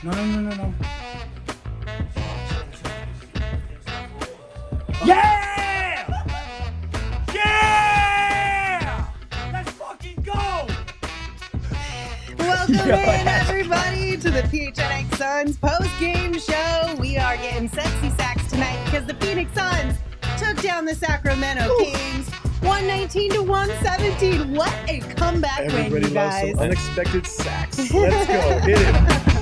No. Yeah! Yeah! Let's fucking go! Welcome in, everybody, to the PHNX Suns post-game show. We are getting sexy sacks tonight because the Phoenix Suns took down the Sacramento Kings 119-117. What a comeback win, you Everybody loves guys. some unexpected sacks. Let's go. Hit it.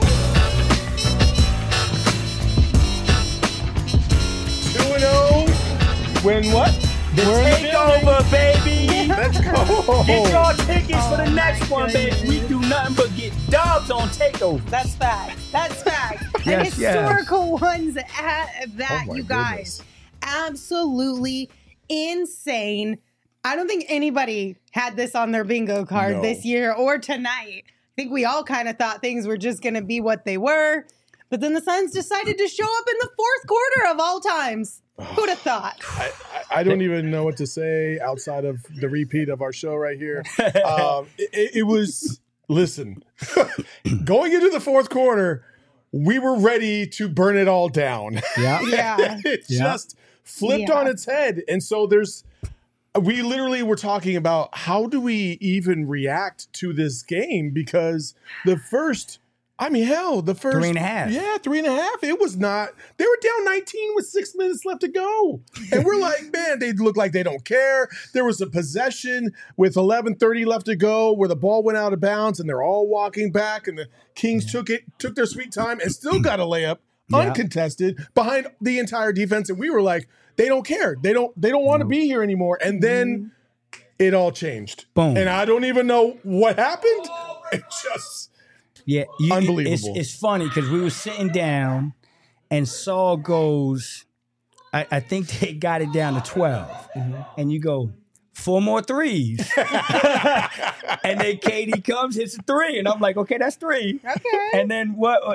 2-0. Win what? The We're in the takeover, baby! Let's go. Get your tickets for the next one, baby. We do nothing but get dubs on takeover. That's fact. That's fact. And Yes, historical ones at that, Oh my you guys. goodness. Absolutely insane. I don't think anybody had this on their bingo card No. this year or tonight. I think we all kind of thought things were just going to be what they were. But then the Suns decided to show up in the fourth quarter of all times. Who'd have thought? I don't even know what to say outside of the repeat of our show right here. It was, listen, going into the fourth quarter, we were ready to burn it all down. Yeah. Yeah. It Yeah. just flipped Yeah. on its head. And so we literally were talking about how do we even react to this game? Because the first 3.5. Yeah, 3.5. It was not, they were down 19 with 6 minutes left to go. And we're like, man, they look like they don't care. There was a possession with 11:30 left to go where the ball went out of bounds and they're all walking back and the Kings took their sweet time and still got a layup uncontested behind the entire defense. And we were like, they don't care. They don't want to be here anymore. And then it all changed. Boom. And I don't even know what happened. It just Yeah, Unbelievable. It's funny because we were sitting down, and Saul goes, I think they got it down to 12, and you go 4 more threes, and then KD comes, hits a 3, and I'm like, okay, that's 3. Okay. And then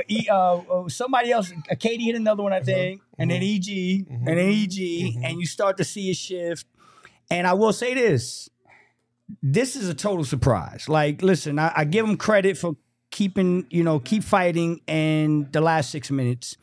somebody else, KD hit another one, I think, and then EG, and then EG, and you start to see a shift. And I will say this is a total surprise. Like, listen, I give them credit for keep fighting in the last 6 minutes.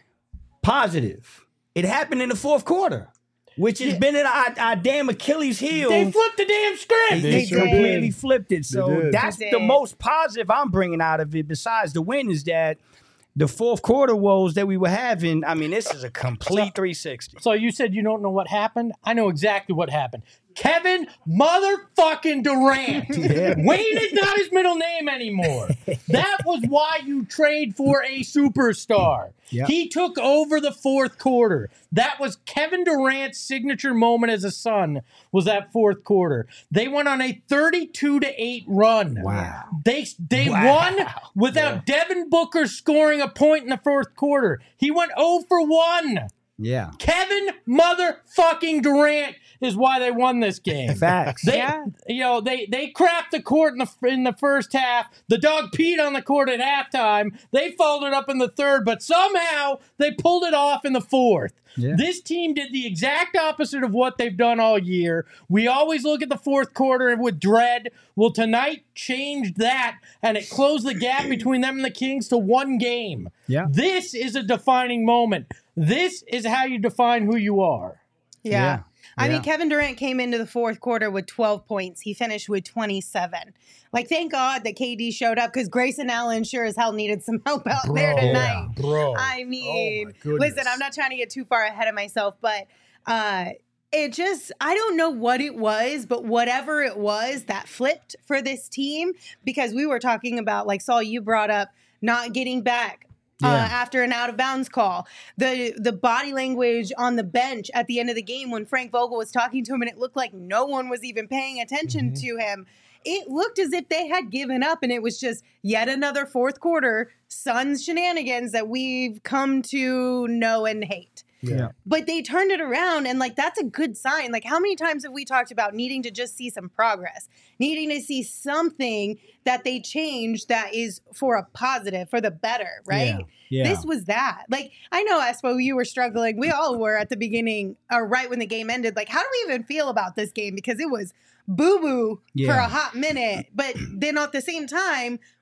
Positive. It happened in the fourth quarter, which has been our damn Achilles heel. They flipped the damn script. They sure did. completely flipped it. So did. that's They the did. most positive I'm bringing out of it, besides the win, is that the fourth quarter woes that we were having, I mean, this is a complete 360. So you said you don't know what happened? I know exactly what happened. Kevin motherfucking Durant. Wayne is not his middle name anymore. That was why you trade for a superstar. Yep. He took over the fourth quarter. That was Kevin Durant's signature moment as a Sun, was that fourth quarter. They went on a 32-8 run. Wow. They Wow. won without Devin Booker scoring a point in the fourth quarter. He went 0 for 1. Yeah. Kevin motherfucking Durant is why they won this game. Facts. They, Yeah. they crapped the court in the first half. The dog peed on the court at halftime. They folded up in the third, but somehow they pulled it off in the fourth. Yeah. This team did the exact opposite of what they've done all year. We always look at the fourth quarter with dread. Well, tonight changed that, and it closed the gap between them and the Kings to 1 game. Yeah. This is a defining moment. This is how you define who you are. Yeah. I Yeah. mean, Kevin Durant came into the fourth quarter with 12 points. He finished with 27. Like, thank God that KD showed up, because Grayson Allen sure as hell needed some help out there tonight. Bro. I mean, Oh my goodness. listen, I'm not trying to get too far ahead of myself, but it just, I don't know what it was, but whatever it was that flipped for this team, because we were talking about, like, Saul, you brought up not getting back after an out of bounds call. The body language on the bench at the end of the game when Frank Vogel was talking to him, and it looked like no one was even paying attention to him. It looked as if they had given up, and it was just yet another fourth quarter Suns shenanigans that we've come to know and hate. Yeah. But they turned it around, and, like, that's a good sign. Like, how many times have we talked about needing to just see some progress, needing to see something that they change that is for a positive, for the better, right? Yeah. This was that. Like, I know, Espo, you were struggling. We all were at the beginning, or right when the game ended. Like, how do we even feel about this game? Because it was boo-boo for Yeah. a hot minute. But then at the same time,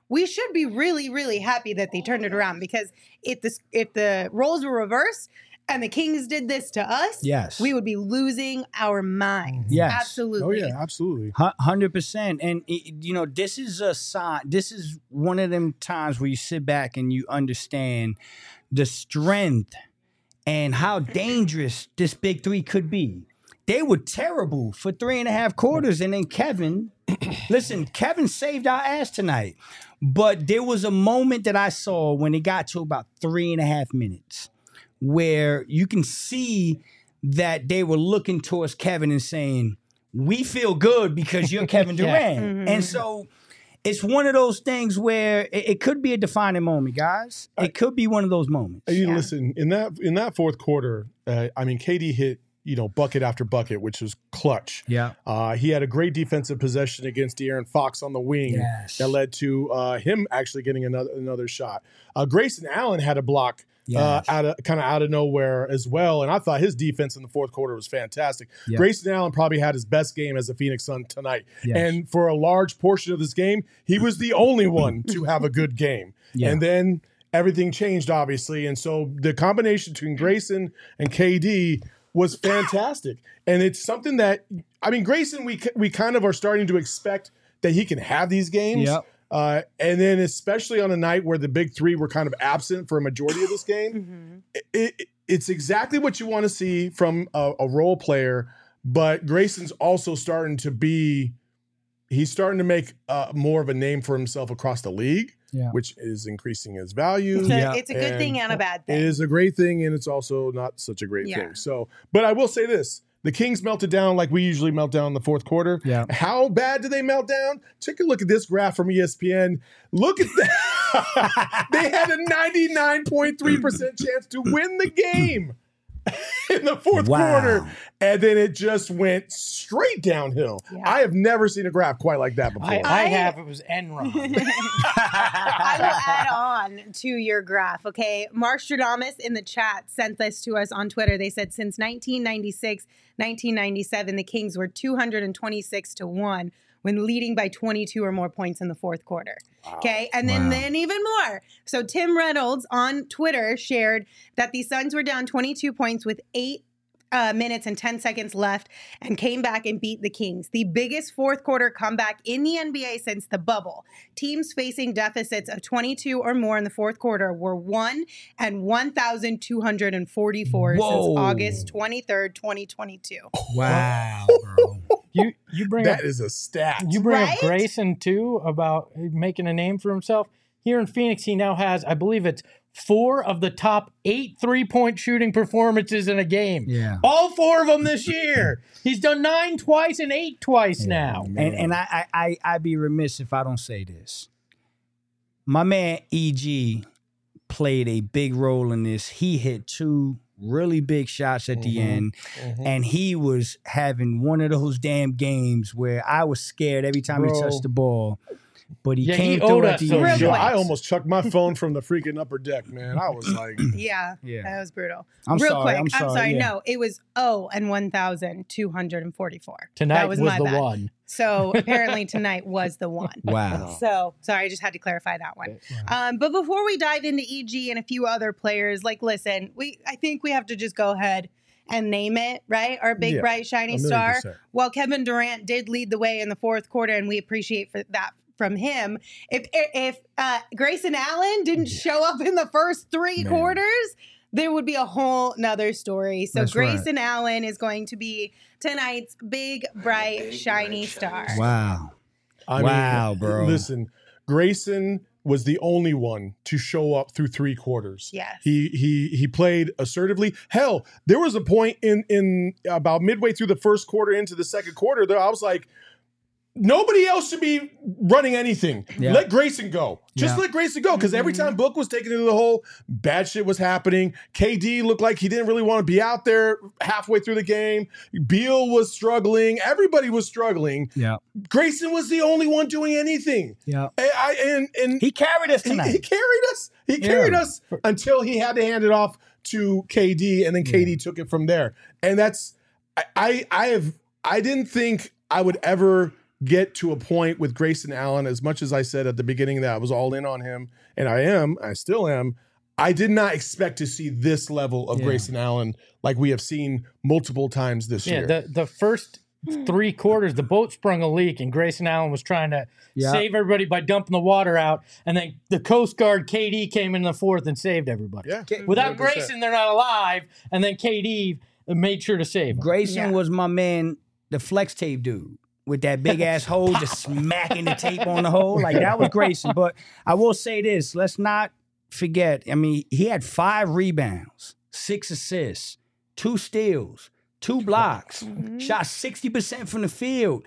we should be really, really happy that they turned it around, because if the roles were reversed and the Kings did this to us, Yes. we would be losing our minds. Yes. Absolutely. Oh yeah, absolutely. 100%. And this is a sign. This is one of them times where you sit back and you understand the strength and how dangerous this big three could be. They were terrible for 3.5 quarters, and then Kevin, listen, Kevin saved our ass tonight. But there was a moment that I saw when it got to about 3.5 minutes where you can see that they were looking towards Kevin and saying, we feel good because you're Kevin Durant. Mhm. And so it's one of those things where it could be a defining moment, guys. It could be one of those moments. You listen, in that fourth quarter, KD hit, bucket after bucket, which was clutch. Yeah. He had a great defensive possession against De'Aaron Fox on the wing. Yes. That led to him actually getting another shot. Grayson Allen had a block Yes. out of nowhere as well, and I thought his defense in the fourth quarter was fantastic. Yeah. Grayson Allen probably had his best game as a Phoenix Sun tonight, Yes. and for a large portion of this game, he was the only one to have a good game. Yeah. And then everything changed, obviously, and so the combination between Grayson and KD was fantastic. And it's something that, Grayson, we kind of are starting to expect that he can have these games. Yep. And then especially on a night where the big three were kind of absent for a majority of this game, it's exactly what you want to see from a role player. But Grayson's also starting to make more of a name for himself across the league. Yeah. Which is increasing his value. It's a good thing and a bad thing. It is a great thing, and it's also not such a great Yeah. thing. So, but I will say this. The Kings melted down like we usually melt down in the fourth quarter. Yeah. How bad did they melt down? Take a look at this graph from ESPN. Look at that. They had a 99.3% chance to win the game in the fourth quarter. And then it just went straight downhill. Yeah. I have never seen a graph quite like that before. I have. It was Enron. I will add on to your graph, okay? Marstradamus in the chat sent this to us on Twitter. They said since 1996, 1997, the Kings were 226-1 when leading by 22 or more points in the fourth quarter. Okay, and then even more. So Tim Reynolds on Twitter shared that the Suns were down 22 points with 8 minutes and 10 seconds left and came back and beat the Kings. The biggest fourth quarter comeback in the NBA since the bubble. Teams facing deficits of 22 or more in the fourth quarter were 1 and 1,244 since August 23rd, 2022. Wow, bro. You bring That up, is a stat. you bring Right? up Grayson too about making a name for himself. Here in Phoenix, he now has, I believe it's 4 of the top 8 3-point shooting performances in a game. Yeah. All 4 of them this year. He's done 9 twice and 8 twice now. And I'd be remiss if I don't say this. My man EG played a big role in this. He hit 2 really big shots at the end, and he was having one of those damn games where I was scared every time he touched the ball. But he came he through owed at us the those end. Yo, shots. I almost chucked my phone from the freaking upper deck, man. I was like, Yeah, Yeah. that was brutal. I'm Real sorry, quick, I'm sorry, yeah. No, it was 0 and 1,244. Tonight that was my the bad. one. So apparently tonight was the one. Wow. So sorry, I just had to clarify that one. But before we dive into EG and a few other players, listen, I think we have to just go ahead and name it, right? Our big, Yeah, bright, shiny 1,000,000%. star. Well, Kevin Durant did lead the way in the fourth quarter, and we appreciate that from him. If Grayson Allen didn't show up in the first 3 quarters, there would be a whole nother story. So That's right. Grayson Allen is going to be tonight's big, bright, shiny star. Wow. I Wow, mean, bro. Listen, Grayson was the only one to show up through 3 quarters. Yes. He played assertively. Hell, there was a point in about midway through the first quarter into the second quarter that I was like, nobody else should be running anything. Yeah. Let Grayson go. Just Yeah. let Grayson go. Because every time Book was taken into the hole, bad shit was happening. KD looked like he didn't really want to be out there halfway through the game. Beal was struggling. Everybody was struggling. Yeah. Grayson was the only one doing anything. Yeah. And He carried us tonight. he carried us. He carried us until he had to hand it off to KD, and then KD took it from there. And that's I didn't think I would ever get to a point with Grayson Allen, as much as I said at the beginning that I was all in on him, and I still am, I did not expect to see this level of Grayson Allen like we have seen multiple times this year. Yeah, the first 3 quarters, the boat sprung a leak, and Grayson Allen was trying to save everybody by dumping the water out, and then the Coast Guard KD came in the fourth and saved everybody. Yeah, Without 100%. Grayson, they're not alive, and then KD made sure to save him. Grayson was my man, the flex tape dude, with that big ass hole just smacking the tape on the hole. Like, that was Grayson. But I will say this, let's not forget, I mean, he had 5 rebounds, 6 assists, 2 steals, 2 blocks, shot 60% from the field,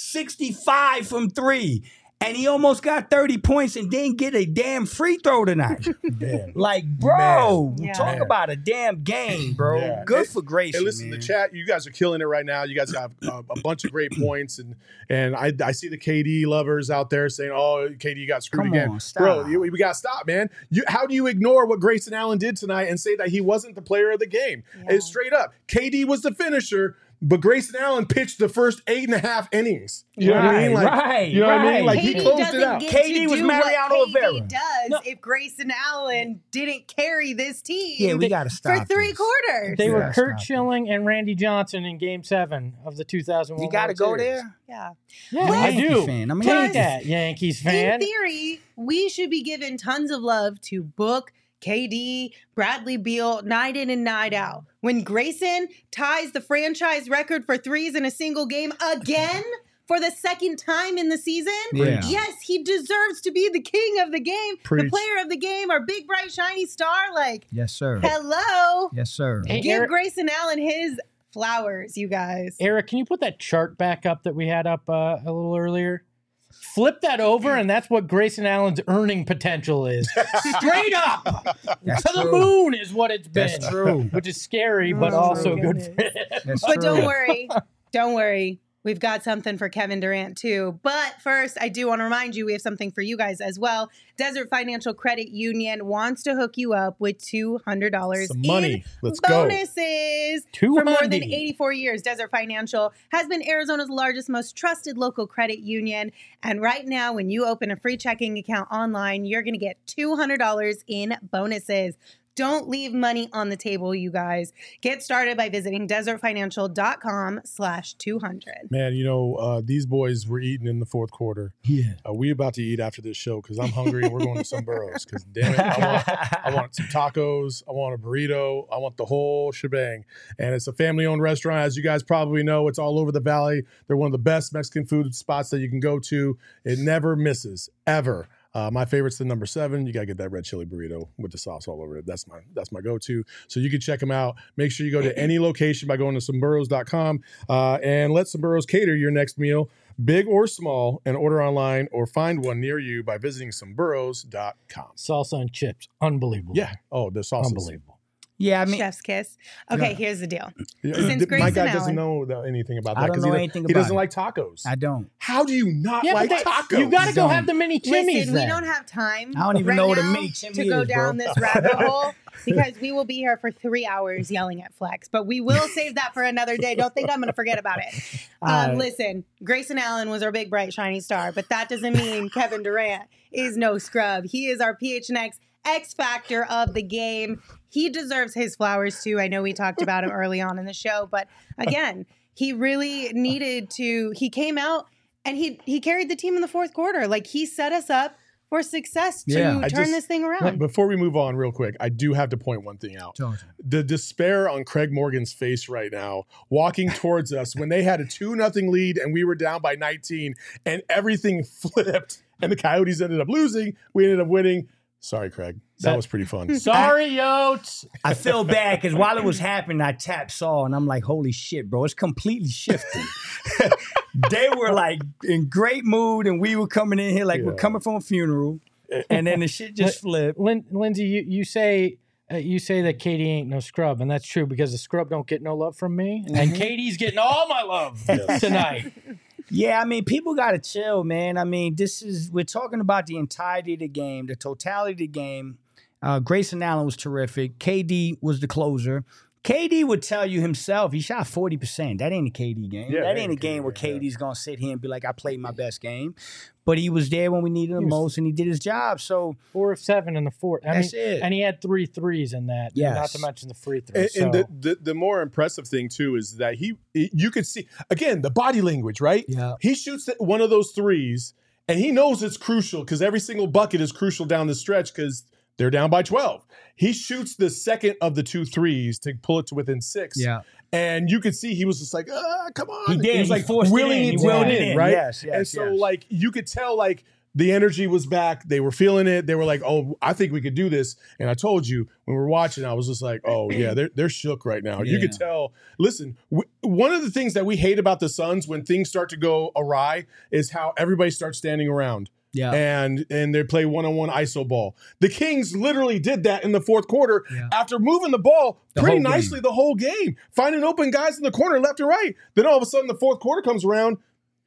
65 from 3. And he almost got 30 points and didn't get a damn free throw tonight. Like, bro, talk about a damn game, bro. Yeah. Good for Grayson. Hey, listen, man. the chat, you guys are killing it right now. You guys have a bunch of great points, and I see the KD lovers out there saying, "Oh, KD got screwed Come again." on, stop. Bro, we got to stop, man. How do you ignore what Grayson Allen did tonight and say that he wasn't the player of the game? It's straight up. KD was the finisher, but Grayson Allen pitched the first 8.5 innings. You know what I mean? Like, you know what I mean? Like, he KD closed doesn't it out. get KD to was do Mariano what Rivera. KD does if Grayson Allen didn't carry this team Yeah, we got to stop for 3 this. quarters. They were Yeah, Kurt stop. Schilling and Randy Johnson in Game 7 of the 2001 You got to World go Series. there? Yeah. Yeah, I'm a I Yankee do. fan. I'm a Take Yankee that, Yankees In fan. theory, we should be giving tons of love to Book, KD, Bradley Beal, night in and night out. When Grayson ties the franchise record for threes in a single game again for the second time in the season, yes, he deserves to be the king of the game, the player of the game, our big, bright, shiny star. Like, Yes, sir. hello. Yes, sir. Hey, Give Eric, Grayson Allen his flowers, you guys. Eric, can you put that chart back up that we had up a little earlier? Flip that over, and that's what Grayson Allen's earning potential is. Straight up That's to the true. moon is what it's been. That's true. Which is scary, but Oh, also my good for goodness. him. That's But true. don't worry. We've got something for Kevin Durant too. But first, I do want to remind you we have something for you guys as well. Desert Financial Credit Union wants to hook you up with $200 Some money. in Let's go. bonuses. For more than 200. 84 years, Desert Financial has been Arizona's largest, most trusted local credit union. And right now, when you open a free checking account online, you're going to get $200 in bonuses. Don't leave money on the table, you guys. Get started by visiting desertfinancial.com/200. Man, you know, these boys were eating in the fourth quarter. Yeah. We about to eat after this show because I'm hungry and we're going to some burros. Because damn it, I want some tacos, I want a burrito, I want the whole shebang. And it's a family-owned restaurant, as you guys probably know. It's all over the valley. They're one of the best Mexican food spots that you can go to. It never misses, ever. My favorite's the number 7. You gotta get that red chili burrito with the sauce all over it. That's my go-to. So you can check them out. Make sure you go to any location by going to someburros.com and let Some Burros cater your next meal, big or small, and order online or find one near you by visiting someburros.com. Salsa and chips. Unbelievable. Yeah. Oh, the sauce. Unbelievable. Yeah, I mean, Chef's kiss. Okay, here's the deal. My Grayson guy doesn't Allen- know anything about I that don't because know he anything doesn't about like tacos. I don't. How do you not Yeah, like but tacos? you got to go Don't. have the mini chimneys Listen, we then. don't have time. I don't even right know what a now mini chimney to go is, bro. down this rabbit hole because we will be here for 3 hours yelling at Flex. But we will save that for another day. Don't think I'm going to forget about it. Listen, Grayson Allen was our big, bright, shiny star, but that doesn't mean Kevin Durant is no scrub. He is our PHNX X factor of the game. He deserves his flowers too. I know we talked about him early on in the show, but again, he really needed to. He came out and he carried the team in the fourth quarter. Like, he set us up for success to Yeah. turn this thing around. Before we move on real quick, I do have to point one thing out. The despair on Craig Morgan's face right now, walking towards us when they had a 2-0 lead and we were down by 19 and everything flipped and the Coyotes ended up losing. We ended up winning. Sorry, Craig. That was pretty fun. Sorry, Yotes. I feel bad because while it was happening, I tapped Saul and I'm like, holy shit, bro, it's completely shifted. They were like in great mood and we were coming in here like we're coming from a funeral. And then the shit just flipped. Lindsay, you say that Katie ain't no scrub, and that's true because the scrub don't get no love from me, and Katie's getting all my love tonight. Yeah, I mean, people got to chill, man. I mean, we're talking about the entirety of the game, the totality of the game. Grayson Allen was terrific. KD was the closer. KD would tell you himself he shot 40%. That ain't a KD game. Yeah, that ain't a game where KD's gonna sit here and be like, I played my best game. But he was there when we needed him most, and he did his job. So 4 of 7 in the fourth. That's it. And he had 3 threes in that. Yes. Not to mention the free throws. And the more impressive thing too is that you could see again the body language, right? Yeah. He shoots one of those threes, and he knows it's crucial because every single bucket is crucial down the stretch because they're down by 12. He shoots the second of the 2 threes to pull it to within 6. Yeah. And you could see he was just like, come on. He did. He was like forced willing it in. it in, right? Yes, and so yes. like you could tell like the energy was back. They were feeling it. They were like, oh, I think we could do this. And I told you when we were watching, I was just like, oh yeah, they're shook right now. You could tell. Listen, one of the things that we hate about the Suns when things start to go awry is how everybody starts standing around. Yeah. And they play one-on-one ISO ball. The Kings literally did that in the fourth quarter after moving the ball pretty nicely the whole game, finding open guys in the corner left and right. Then all of a sudden the fourth quarter comes around,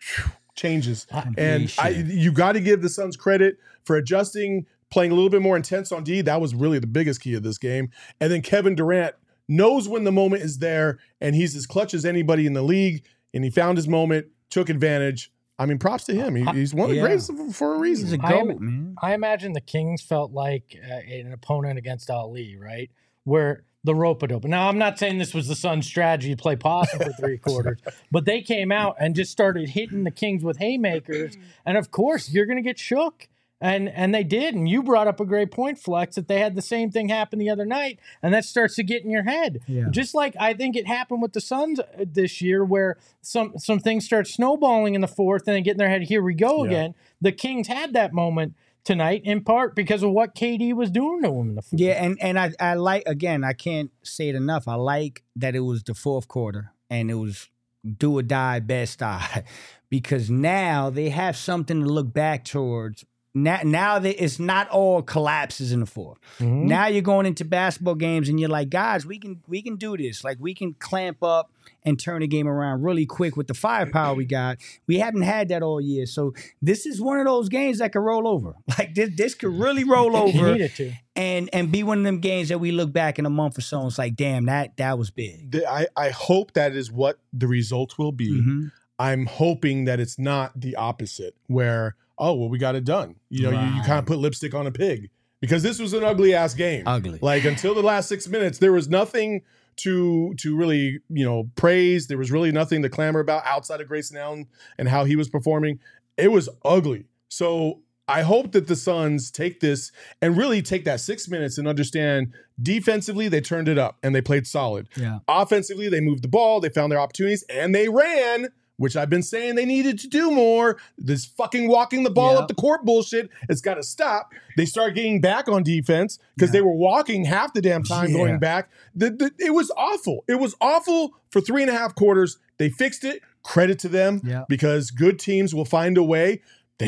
changes. And you got to give the Suns credit for adjusting, playing a little bit more intense on D. That was really the biggest key of this game. And then Kevin Durant knows when the moment is there, and he's as clutch as anybody in the league, and he found his moment, took advantage. I mean, props to him. He's one of the greatest for a reason. He's a GOAT, man. I imagine the Kings felt like an opponent against Ali, right? Where the rope-a-dope. Now, I'm not saying this was the Suns' strategy to play possum for 3 quarters, but they came out and just started hitting the Kings with haymakers. And, of course, you're going to get shook. And they did. And you brought up a great point, Flex, that they had the same thing happen the other night, and that starts to get in your head. Yeah. Just like I think it happened with the Suns this year, where some things start snowballing in the fourth and they get in their head, here we go again. The Kings had that moment tonight, in part because of what KD was doing to him in the fourth. Yeah, and I like, again, I can't say it enough. I like that it was the fourth quarter and it was do or die, best die, because now they have something to look back towards. Now that it's not all collapses in the fourth. Mm-hmm. Now you're going into basketball games and you're like, guys, we can do this. Like, we can clamp up and turn the game around really quick with the firepower we got. We haven't had that all year. So this is one of those games that could roll over. Like, this could really roll over. Need it to. And be one of them games that we look back in a month or so and it's like, damn, that was big. I hope that is what the result will be. Mm-hmm. I'm hoping that it's not the opposite, where, oh, well, we got it done. You know, you kind of put lipstick on a pig, because this was an ugly ass game. Ugly. Like, until the last 6 minutes, there was nothing to really, praise. There was really nothing to clamor about outside of Grayson Allen and how he was performing. It was ugly. So I hope that the Suns take this and really take that 6 minutes and understand defensively they turned it up and they played solid. Yeah. Offensively, they moved the ball, they found their opportunities, and they ran, which I've been saying they needed to do more. This fucking walking the ball up the court bullshit, it's got to stop. They start getting back on defense because they were walking half the damn time going back. It was awful. It was awful for 3.5 quarters. They fixed it. Credit to them because good teams will find a way.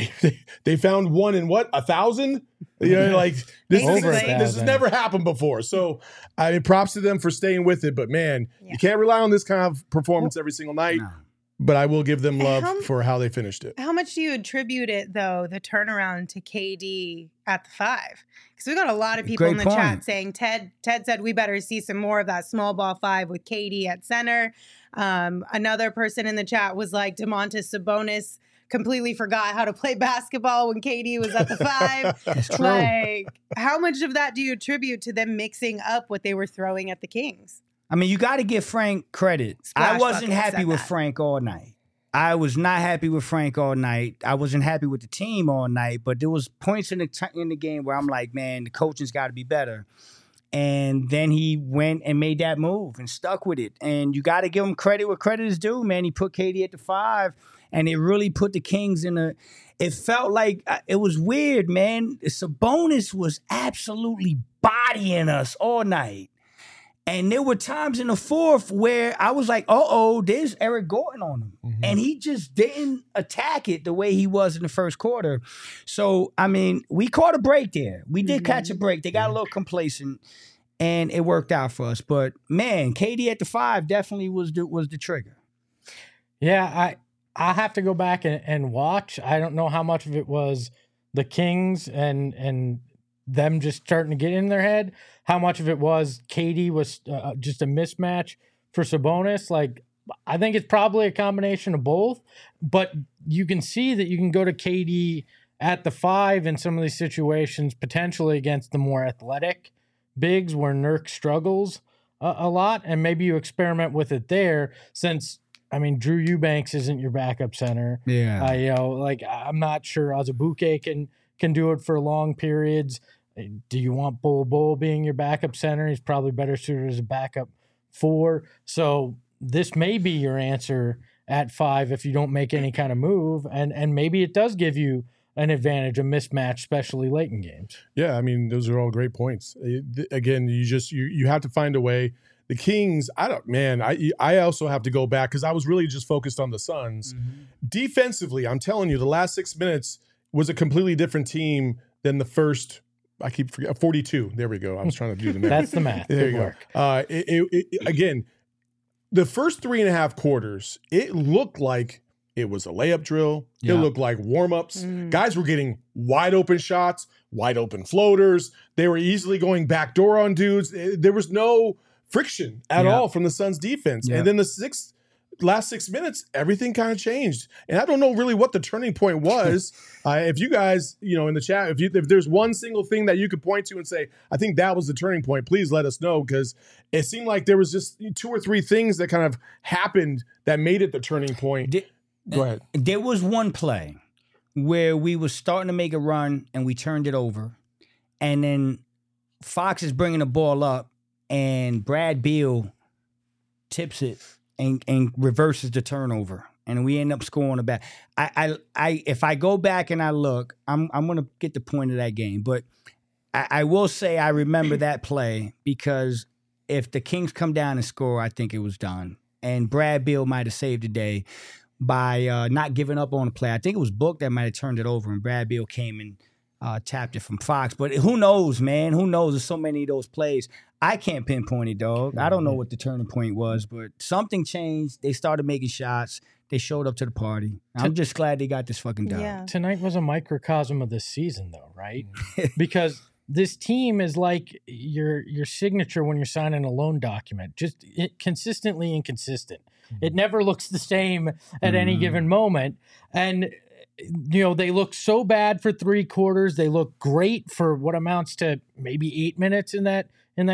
They found one in 1,000? Like this has never happened before. So I mean, props to them for staying with it. But man, you can't rely on this kind of performance every single night. No. But I will give them love for how they finished it. How much do you attribute it, though, the turnaround to KD at the 5? Because we got a lot of people in the chat saying Ted said we better see some more of that small ball 5 with KD at center. Another person in the chat was like, DeMontis Sabonis completely forgot how to play basketball when KD was at the 5. That's true. Like, how much of that do you attribute to them mixing up what they were throwing at the Kings? I mean, you got to give Frank credit. I wasn't happy with Frank all night. I was not happy with Frank all night. I wasn't happy with the team all night. But there was points in the game where I'm like, man, the coaching's got to be better. And then he went and made that move and stuck with it. And you got to give him credit where credit is due, man. He put KD at the 5, and it really put the Kings in a. It felt like it was weird, man. Sabonis was absolutely bodying us all night. And there were times in the fourth where I was like, there's Eric Gordon on him. Mm-hmm. And he just didn't attack it the way he was in the first quarter. So, I mean, we caught a break there. We did catch a break. They got a little complacent, and it worked out for us. But, man, KD at the 5 definitely was the trigger. Yeah, I have to go back and watch. I don't know how much of it was the Kings and them just starting to get in their head, how much of it was KD was just a mismatch for Sabonis. Like, I think it's probably a combination of both, but you can see that you can go to KD at the 5 in some of these situations, potentially against the more athletic bigs where Nurk struggles a lot, and maybe you experiment with it there since, I mean, Drew Eubanks isn't your backup center. Yeah. You know, like, I'm not sure Azubuike can do it for long periods. Do you want Bol being your backup center? He's probably better suited as a backup 4. So this may be your answer at 5 if you don't make any kind of move, and maybe it does give you an advantage, a mismatch, especially late in games. Yeah, I mean, those are all great points. Again, you have to find a way. The Kings, I also have to go back because I was really just focused on the Suns. Mm-hmm. Defensively, I'm telling you, the last 6 minutes was a completely different team than the first. I keep forgetting 42. There we go. I was trying to do the math. That's the math. There Good you work. go. Again, the first 3.5 quarters, it looked like it was a layup drill. Yeah. It looked like warm-ups. Guys were getting wide open shots, wide open floaters. They were easily going backdoor on dudes. There was no friction at all from the Suns defense. Yeah. And then the last 6 minutes, everything kind of changed. And I don't know really what the turning point was. If you guys, in the chat, if there's one single thing that you could point to and say, I think that was the turning point, please let us know, because it seemed like there was just 2 or 3 things that kind of happened that made it the turning point. Go ahead. There was one play where we were starting to make a run and we turned it over. And then Fox is bringing the ball up and Brad Beal tips it and reverses the turnover. And we end up scoring a back. If I go back and I look, I'm going to get the point of that game. But I will say I remember that play because if the Kings come down and score, I think it was done. And Brad Beal might have saved the day by not giving up on the play. I think it was Book that might have turned it over, and Brad Beal came and tapped it from Fox. But who knows, man? Who knows? There's so many of those plays. I can't pinpoint it, dog. I don't know what the turning point was, but something changed. They started making shots. They showed up to the party. I'm just glad they got this fucking done. Yeah. Tonight was a microcosm of this season, though, right? Because this team is like your signature when you're signing a loan document, just consistently inconsistent. It never looks the same at any given moment. And, they look so bad for 3 quarters. They look great for what amounts to maybe 8 minutes in that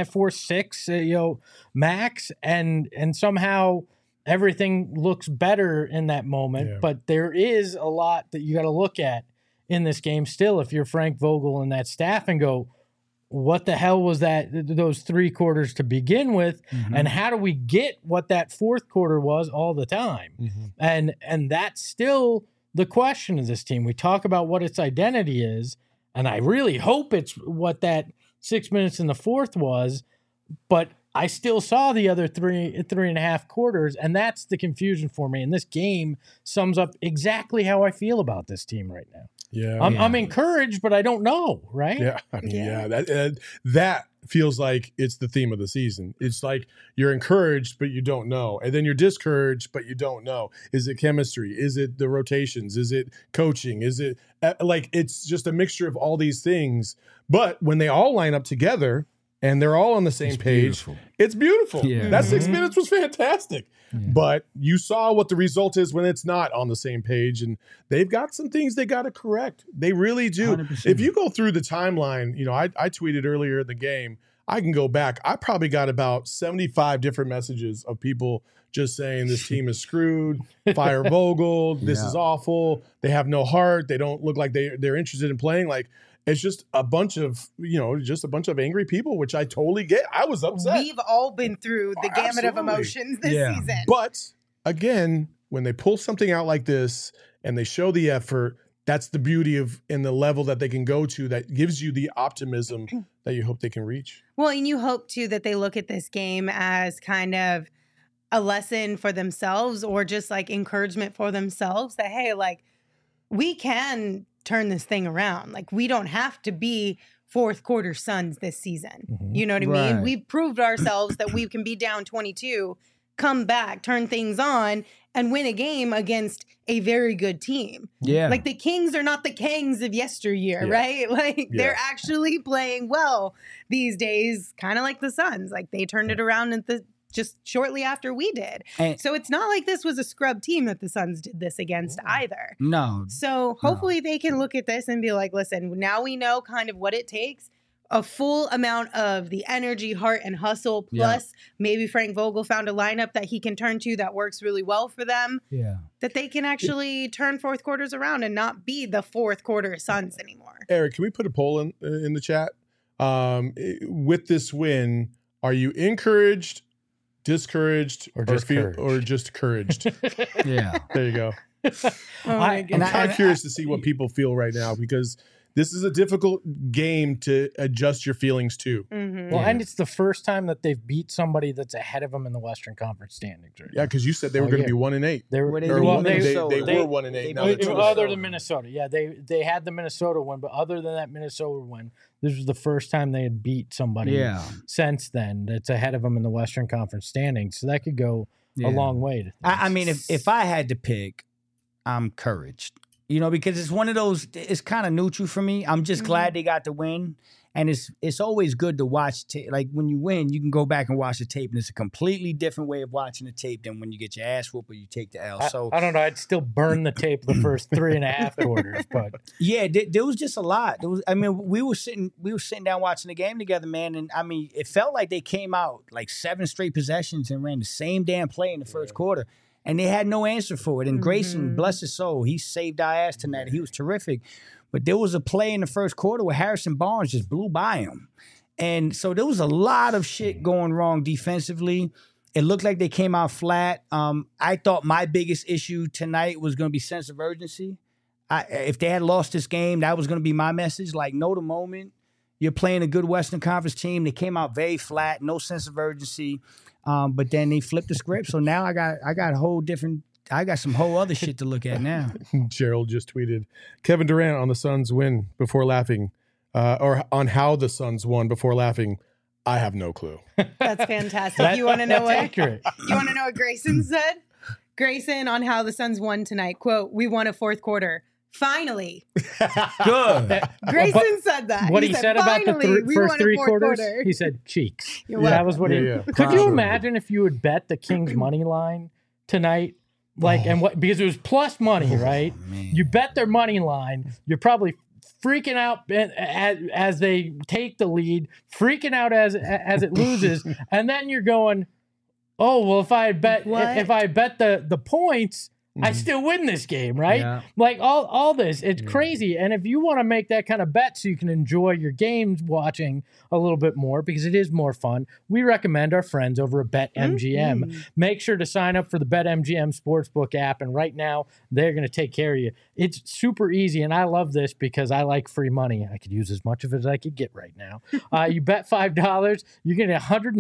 4-6, max. And somehow everything looks better in that moment. Yeah. But there is a lot that you got to look at in this game still if you're Frank Vogel and that staff and go, what the hell was those 3 quarters to begin with? Mm-hmm. And how do we get what that 4th quarter was all the time? Mm-hmm. And that's still the question of this team. We talk about what its identity is, and I really hope it's what that 6 minutes in the 4th was, but I still saw the other 3.5 quarters, and that's the confusion for me. And this game sums up exactly how I feel about this team right now. Yeah, I'm encouraged, but I don't know, right? Yeah, I mean, that feels like it's the theme of the season. It's like you're encouraged, but you don't know, and then you're discouraged, but you don't know. Is it chemistry? Is it the rotations? Is it coaching? Is it it's just a mixture of all these things? But when they all line up together and they're all on the same page, it's beautiful. Yeah. That 6 minutes was fantastic. Yeah. But you saw what the result is when it's not on the same page, and they've got some things they got to correct. They really do. 100%. If you go through the timeline, I tweeted earlier in the game, I can go back. I probably got about 75 different messages of people just saying this team is screwed, fire Vogel, this is awful, they have no heart, they don't look like they're interested in playing. Like, it's just a bunch of, angry people, which I totally get. I was upset. We've all been through the gamut of emotions this season. But again, when they pull something out like this and they show the effort, that's the beauty of and the level that they can go to that gives you the optimism that you hope they can reach. Well, and you hope too that they look at this game as kind of a lesson for themselves or just like encouragement for themselves that, hey, like we can turn this thing around. Like we don't have to be 4th quarter Suns this season. Mm-hmm. You know what I mean? We've proved ourselves that we can be down 22 come back, turn things on, and win a game against a very good team. Yeah. Like the Kings are not the Kangs of yesteryear, Yeah. right? Like Yeah. they're actually playing well these days, kind of like the Suns. Like they turned it around just shortly after we did. And- So it's not like this was a scrub team that the Suns did this against either. No. So hopefully they can look at this and be like, listen, now we know kind of what it takes. A full amount of the energy, heart, and hustle. Plus, maybe Frank Vogel found a lineup that he can turn to that works really well for them. Yeah. That they can actually turn fourth quarters around and not be the fourth quarter Suns anymore. Eric, can we put a poll in the chat? With this win, are you encouraged, discouraged, Or just couraged? or just encouraged? Yeah. There you go. Oh my I'm goodness. kind of curious to see what people feel right now because this is a difficult game to adjust your feelings to. Mhm. Well, Yeah. and it's the first time that they've beat somebody that's ahead of them in the Western Conference standings. Right? Yeah, because you said they were Oh, going to yeah. be 1-8. They were Well, they Or beat well, one- they- Minnesota. they were 1-8. They Now beat they're 2-8. other than Minnesota. Yeah, they had the Minnesota win, but other than that Minnesota win, this was the first time they had beat somebody Yeah. since then that's ahead of them in the Western Conference standings. So that could go Yeah. a long way. To I mean, if I had to pick, I'm encouraged. You know, because it's one of those. It's kind of neutral for me. I'm just glad they got the win, and it's always good to watch. Like when you win, you can go back and watch the tape, and it's a completely different way of watching the tape than when you get your ass whooped or you take the L. So I don't know. I'd still burn the tape the first 3.5 quarters, but yeah, there was just a lot. There was, I mean, we were sitting down watching the game together, man, and I mean, it felt like they came out like 7 straight possessions and ran the same damn play in the first quarter. And they had no answer for it. And Grayson, bless his soul, he saved our ass tonight. He was terrific. But there was a play in the first quarter where Harrison Barnes just blew by him. And so there was a lot of shit going wrong defensively. It looked like they came out flat. I thought my biggest issue tonight was going to be sense of urgency. If they had lost this game, that was going to be my message. Like, know the moment. You're playing a good Western Conference team. They came out very flat, no sense of urgency. But then they flipped the script. So now I got some whole other shit to look at now. Gerald just tweeted Kevin Durant on the Suns win before laughing, or on how the Suns won before laughing. I have no clue. That's fantastic. You want to know what? accurate. You want to know what Grayson said? Grayson on how the Suns won tonight. Quote, "We won a fourth quarter. Finally." Good. Grayson said that. What he said about the "Finally, we first won a 3 fourth quarters, quarter." he said cheeks. You're That welcome. was what he. Yeah, yeah. Could you Wow. imagine if you would bet the Kings money line tonight? Like, and what, because it was plus money, right? man. You bet their money line. You're probably freaking out as they take the lead, freaking out as it loses, and then you're going, "Oh well, if I bet What? the points, I still win this game, right?" Yeah. Like all this, it's crazy. And if you want to make that kind of bet so you can enjoy your games watching a little bit more because it is more fun, we recommend our friends over at BetMGM. Make sure to sign up for the BetMGM Sportsbook app, and right now they're going to take care of you. It's super easy, and I love this because I like free money. I could use as much of it as I could get right now. You bet $5, you're getting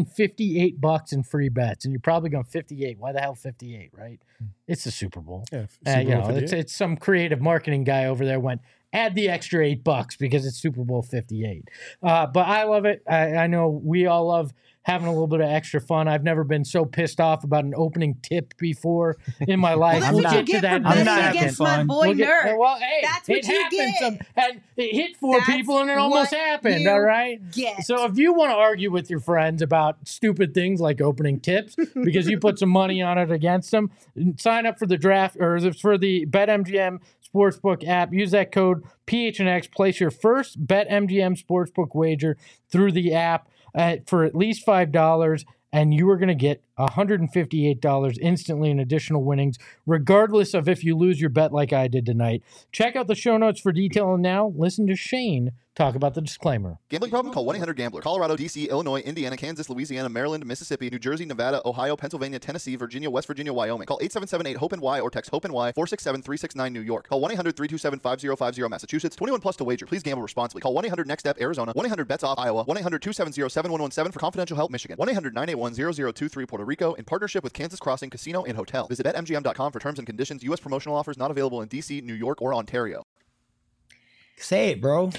$158 in free bets, and you're probably going 58. Why the hell 58, right? It's the Super Bowl. Yeah, You know, it's some creative marketing guy over there went, add the extra $8 because it's Super Bowl 58. But I love it. I know we all love having a little bit of extra fun. I've never been so pissed off about an opening tip before in my life. Well, that's I'm what not- you get for I'm betting not having against my fun. boy Nerd. Well, hey, That's what it you happened. get. And it hit 4 That's people and it almost what happened, you all right? get. So if you want to argue with your friends about stupid things like opening tips because you put some money on it against them, sign up for the draft or for the BetMGM Sportsbook app. Use that code PHNX. Place your first BetMGM Sportsbook wager through the app for at least $5, and you are going to get $158 instantly in additional winnings, regardless of if you lose your bet like I did tonight. Check out the show notes for detail, and now listen to Shane talk about the disclaimer. Gambling problem? Call 1-800-GAMBLER. Colorado, D.C., Illinois, Indiana, Kansas, Louisiana, Maryland, Mississippi, New Jersey, Nevada, Ohio, Pennsylvania, Tennessee, Virginia, West Virginia, Wyoming. Call 877-8-HOPE-NY or text HOPE-NY 467-369 New York. Call 1-800-327-5050 Massachusetts. 21 plus to wager. Please gamble responsibly. Call 1-800-NEXT-STEP Arizona. 1-800-BETS-OFF Iowa. 1-800-270-7117 for confidential help Michigan. 1-800-981-0023 Puerto Rico in partnership with Kansas Crossing Casino and Hotel. Visit BetMGM.com for terms and conditions. U.S. promotional offers not available in D.C., New York, or Ontario. Say it, bro.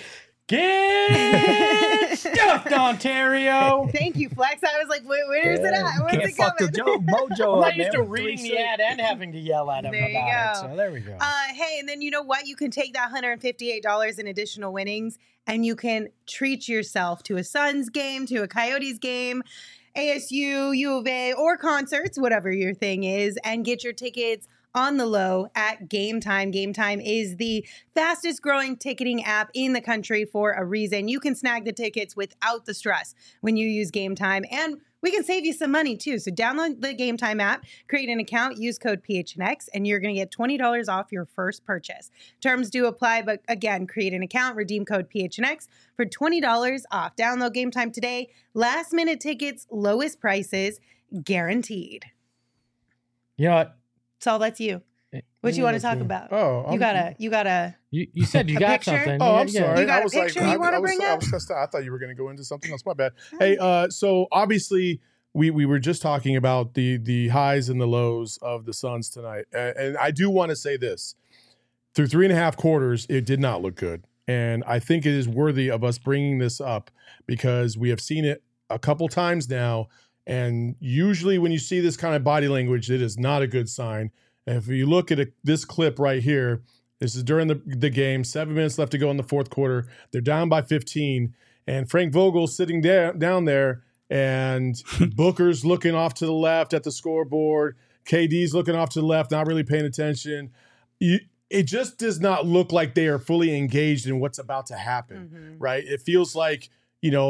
Get stuffed, Ontario. Thank you, Flex. I was like, where's it at? Where's Can't it fuck the coming? mojo I'm up, not used to man. reading the 3-6. ad and having to yell at him There you about it. go. So there we go. Hey, and then you know what? You can take that $158 in additional winnings and you can treat yourself to a Suns game, to a Coyotes game, ASU, U of A, or concerts, whatever your thing is, and get your tickets on the low at Game Time. Game Time is the fastest growing ticketing app in the country for a reason. You can snag the tickets without the stress when you use Game Time, and we can save you some money too. So download the Game Time app, create an account, use code PHNX, and you're going to get $20 off your first purchase. Terms do apply, but again, create an account, redeem code PHNX for $20 off. Download Game Time today. Last minute tickets, lowest prices, guaranteed. You know what? Saul, that's you. What you want to talk about? Oh, You gotta. You said you A got picture? something. Oh, I'm Yeah. sorry. You got I a was picture like, you wanna bring I up? was stressed out. I thought you were going to go into something else. My bad. Hey, so obviously we were just talking about the highs and the lows of the Suns tonight, and I do want to say this: through 3.5 quarters, it did not look good, and I think it is worthy of us bringing this up because we have seen it a couple times now, and usually when you see this kind of body language, it is not a good sign. And if you look at this clip right here, this is during the game, 7 minutes left to go in the fourth quarter. They're down by 15, and Frank Vogel's sitting down there, and Booker's looking off to the left at the scoreboard. KD's looking off to the left, not really paying attention. It just does not look like they are fully engaged in what's about to happen, right? It feels like, you know,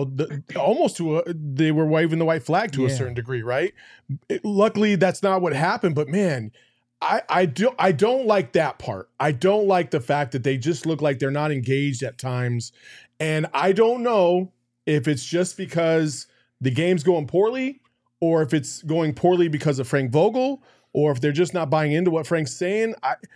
they were waving the white flag to a certain degree, right? Luckily, that's not what happened, but man, I don't like that part. I don't like the fact that they just look like they're not engaged at times. And I don't know if it's just because the game's going poorly or if it's going poorly because of Frank Vogel or if they're just not buying into what Frank's saying.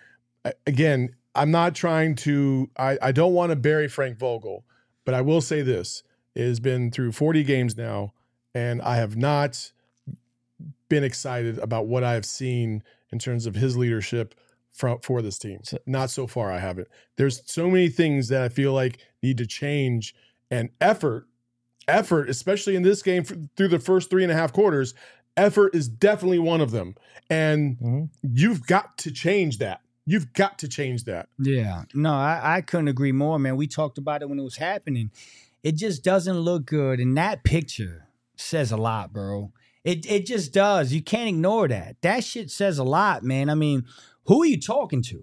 Again, I'm not trying to, I don't want to bury Frank Vogel, but I will say this. It has been through 40 games now, and I have not been excited about what I have seen in terms of his leadership for this team. Not so far, I haven't. There's so many things that I feel like need to change, and effort, especially in this game through the first 3.5 quarters, effort is definitely one of them. And you've got to change that. You've got to change that. Yeah. No, I couldn't agree more, man. We talked about it when it was happening. It just doesn't look good. And that picture says a lot, bro. It just does. You can't ignore that. That shit says a lot, man. I mean, who are you talking to?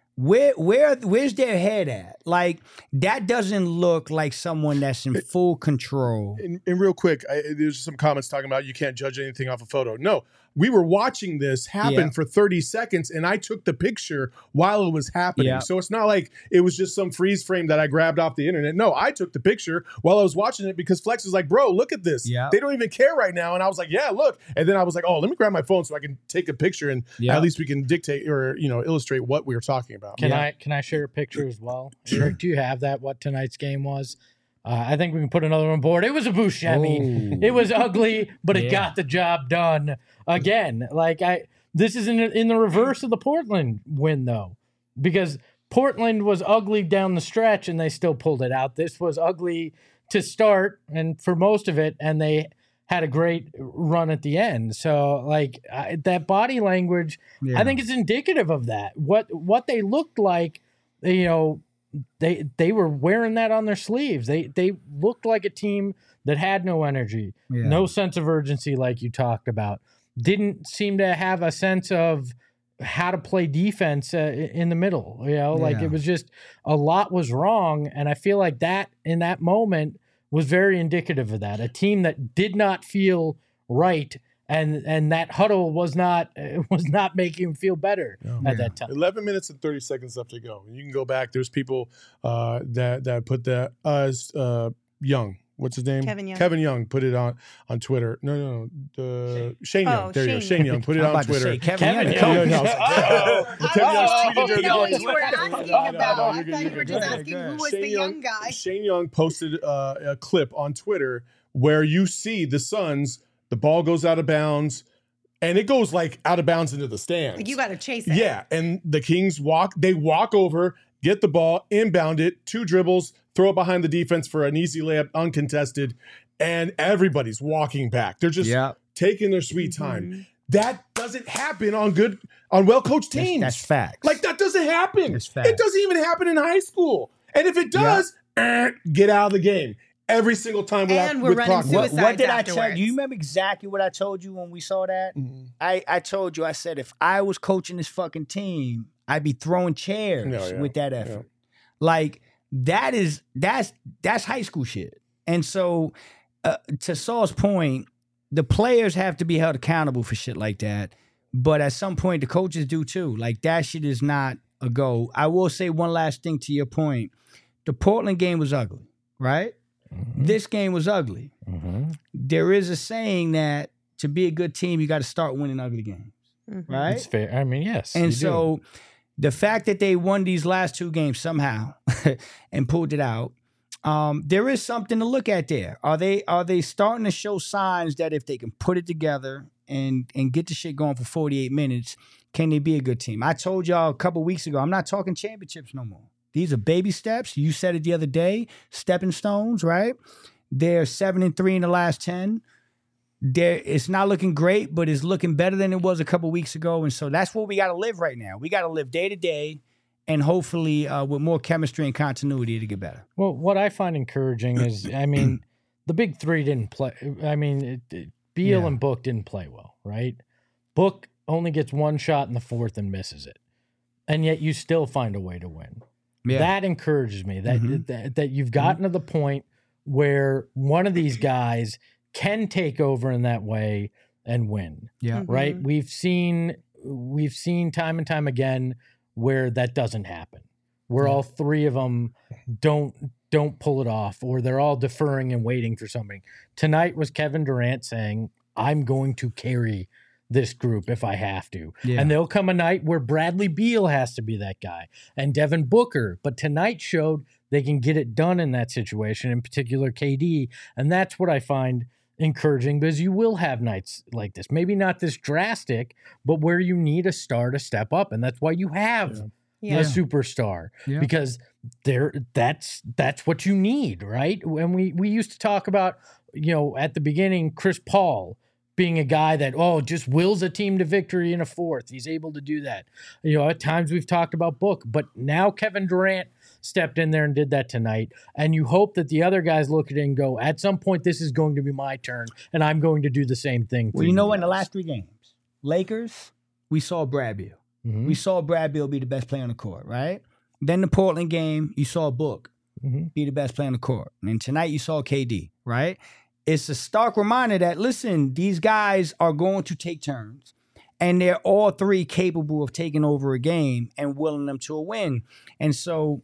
Where's their head at? Like, that doesn't look like someone that's in full control. And real quick, there's some comments talking about you can't judge anything off a photo. No, we were watching this happen for 30 seconds, and I took the picture while it was happening. Yeah. So it's not like it was just some freeze frame that I grabbed off the internet. No, I took the picture while I was watching it because Flex was like, bro, look at this. Yeah. They don't even care right now. And I was like, yeah, look. And then I was like, oh, let me grab my phone so I can take a picture and at least we can dictate or, illustrate what we were talking about. Can I share a picture as well? Sure. Eric, do you have that? What tonight's game was? I think we can put another on board. It was a Buscemi. Oh. It was ugly, but it got the job done. Again, this is in the reverse of the Portland win, though, because Portland was ugly down the stretch and they still pulled it out. This was ugly to start and for most of it, and they had a great run at the end. So, that body language, I think is indicative of that. What they looked like, they were wearing that on their sleeves. They looked like a team that had no energy, no sense of urgency, like you talked about. Didn't seem to have a sense of how to play defense in the middle. It was just a lot was wrong, and I feel like that in that moment was very indicative of that. A team that did not feel right. And that huddle was not making him feel better at that time. 11 minutes and 30 seconds left to go. You can go back. There's people that put that Young. What's his name? Kevin Young. Kevin Young put it on Twitter. No. Shane Young. There you go. Shane Young put it on Twitter. Kevin Young. Kevin Young. Kevin Young's tweeted during the game. You were asking about. I thought you were just asking who was the young guy. Shane Young posted a clip on Twitter where you see the Suns. The ball goes out of bounds, and it goes out of bounds into the stands. You got to chase it. Yeah, and the Kings walk over, get the ball, inbound it, 2 dribbles, throw it behind the defense for an easy layup, uncontested, and everybody's walking back. They're just taking their sweet time. That doesn't happen on well-coached teams. That's facts. Like, that doesn't happen. That's facts. It doesn't even happen in high school. And if it does, get out of the game. Every single time And we're running Proctor. suicide. What did I afterwards. tell you? You remember exactly what I told you when we saw that? I told you, I said, if I was coaching this fucking team, I'd be throwing chairs with that effort. Like, that's high school shit. And so, to Saul's point, the players have to be held accountable for shit like that. But at some point, the coaches do too. Like, that shit is not a go. I will say one last thing to your point. The Portland game was ugly, right? This game was ugly. There is a saying that to be a good team, you got to start winning ugly games, right? It's fair. I mean, yes. And so the fact that they won these last two games somehow and pulled it out, there is something to look at there. Are they starting to show signs that if they can put it together and get the shit going for 48 minutes, can they be a good team? I told y'all a couple weeks ago, I'm not talking championships no more. These are baby steps. You said it the other day, stepping stones, right? They're 7-3 in the last 10. It's not looking great, but it's looking better than it was a couple weeks ago. And so that's what we got to live right now. We got to live day to day, and hopefully with more chemistry and continuity to get better. Well, what I find encouraging is, I mean, the big three didn't play. I mean, Beal and Book didn't play well, right? Book only gets one shot in the fourth and misses it. And yet you still find a way to win. Yeah. That encourages me that you've gotten to the point where one of these guys can take over in that way and win. Yeah. Right? We've seen time and time again where that doesn't happen. Where all three of them don't pull it off, or they're all deferring and waiting for something. Tonight was Kevin Durant saying, I'm going to carry this group if I have to. Yeah. And there'll come a night where Bradley Beal has to be that guy and Devin Booker. But tonight showed they can get it done in that situation, in particular KD. And that's what I find encouraging, because you will have nights like this. Maybe not this drastic, but where you need a star to step up. And that's why you have a superstar, because that's what you need, right? When we used to talk about, at the beginning, Chris Paul being a guy that, just wills a team to victory in a fourth. He's able to do that. At times we've talked about Book, but now Kevin Durant stepped in there and did that tonight. And you hope that the other guys look at it and go, at some point, this is going to be my turn, and I'm going to do the same thing. Well, in the last three games, Lakers, we saw Brad Beal. We saw Brad Beal be the best player on the court, right? Then the Portland game, you saw Book be the best player on the court. And tonight you saw KD, right? It's a stark reminder that, listen, these guys are going to take turns, and they're all three capable of taking over a game and willing them to a win. And so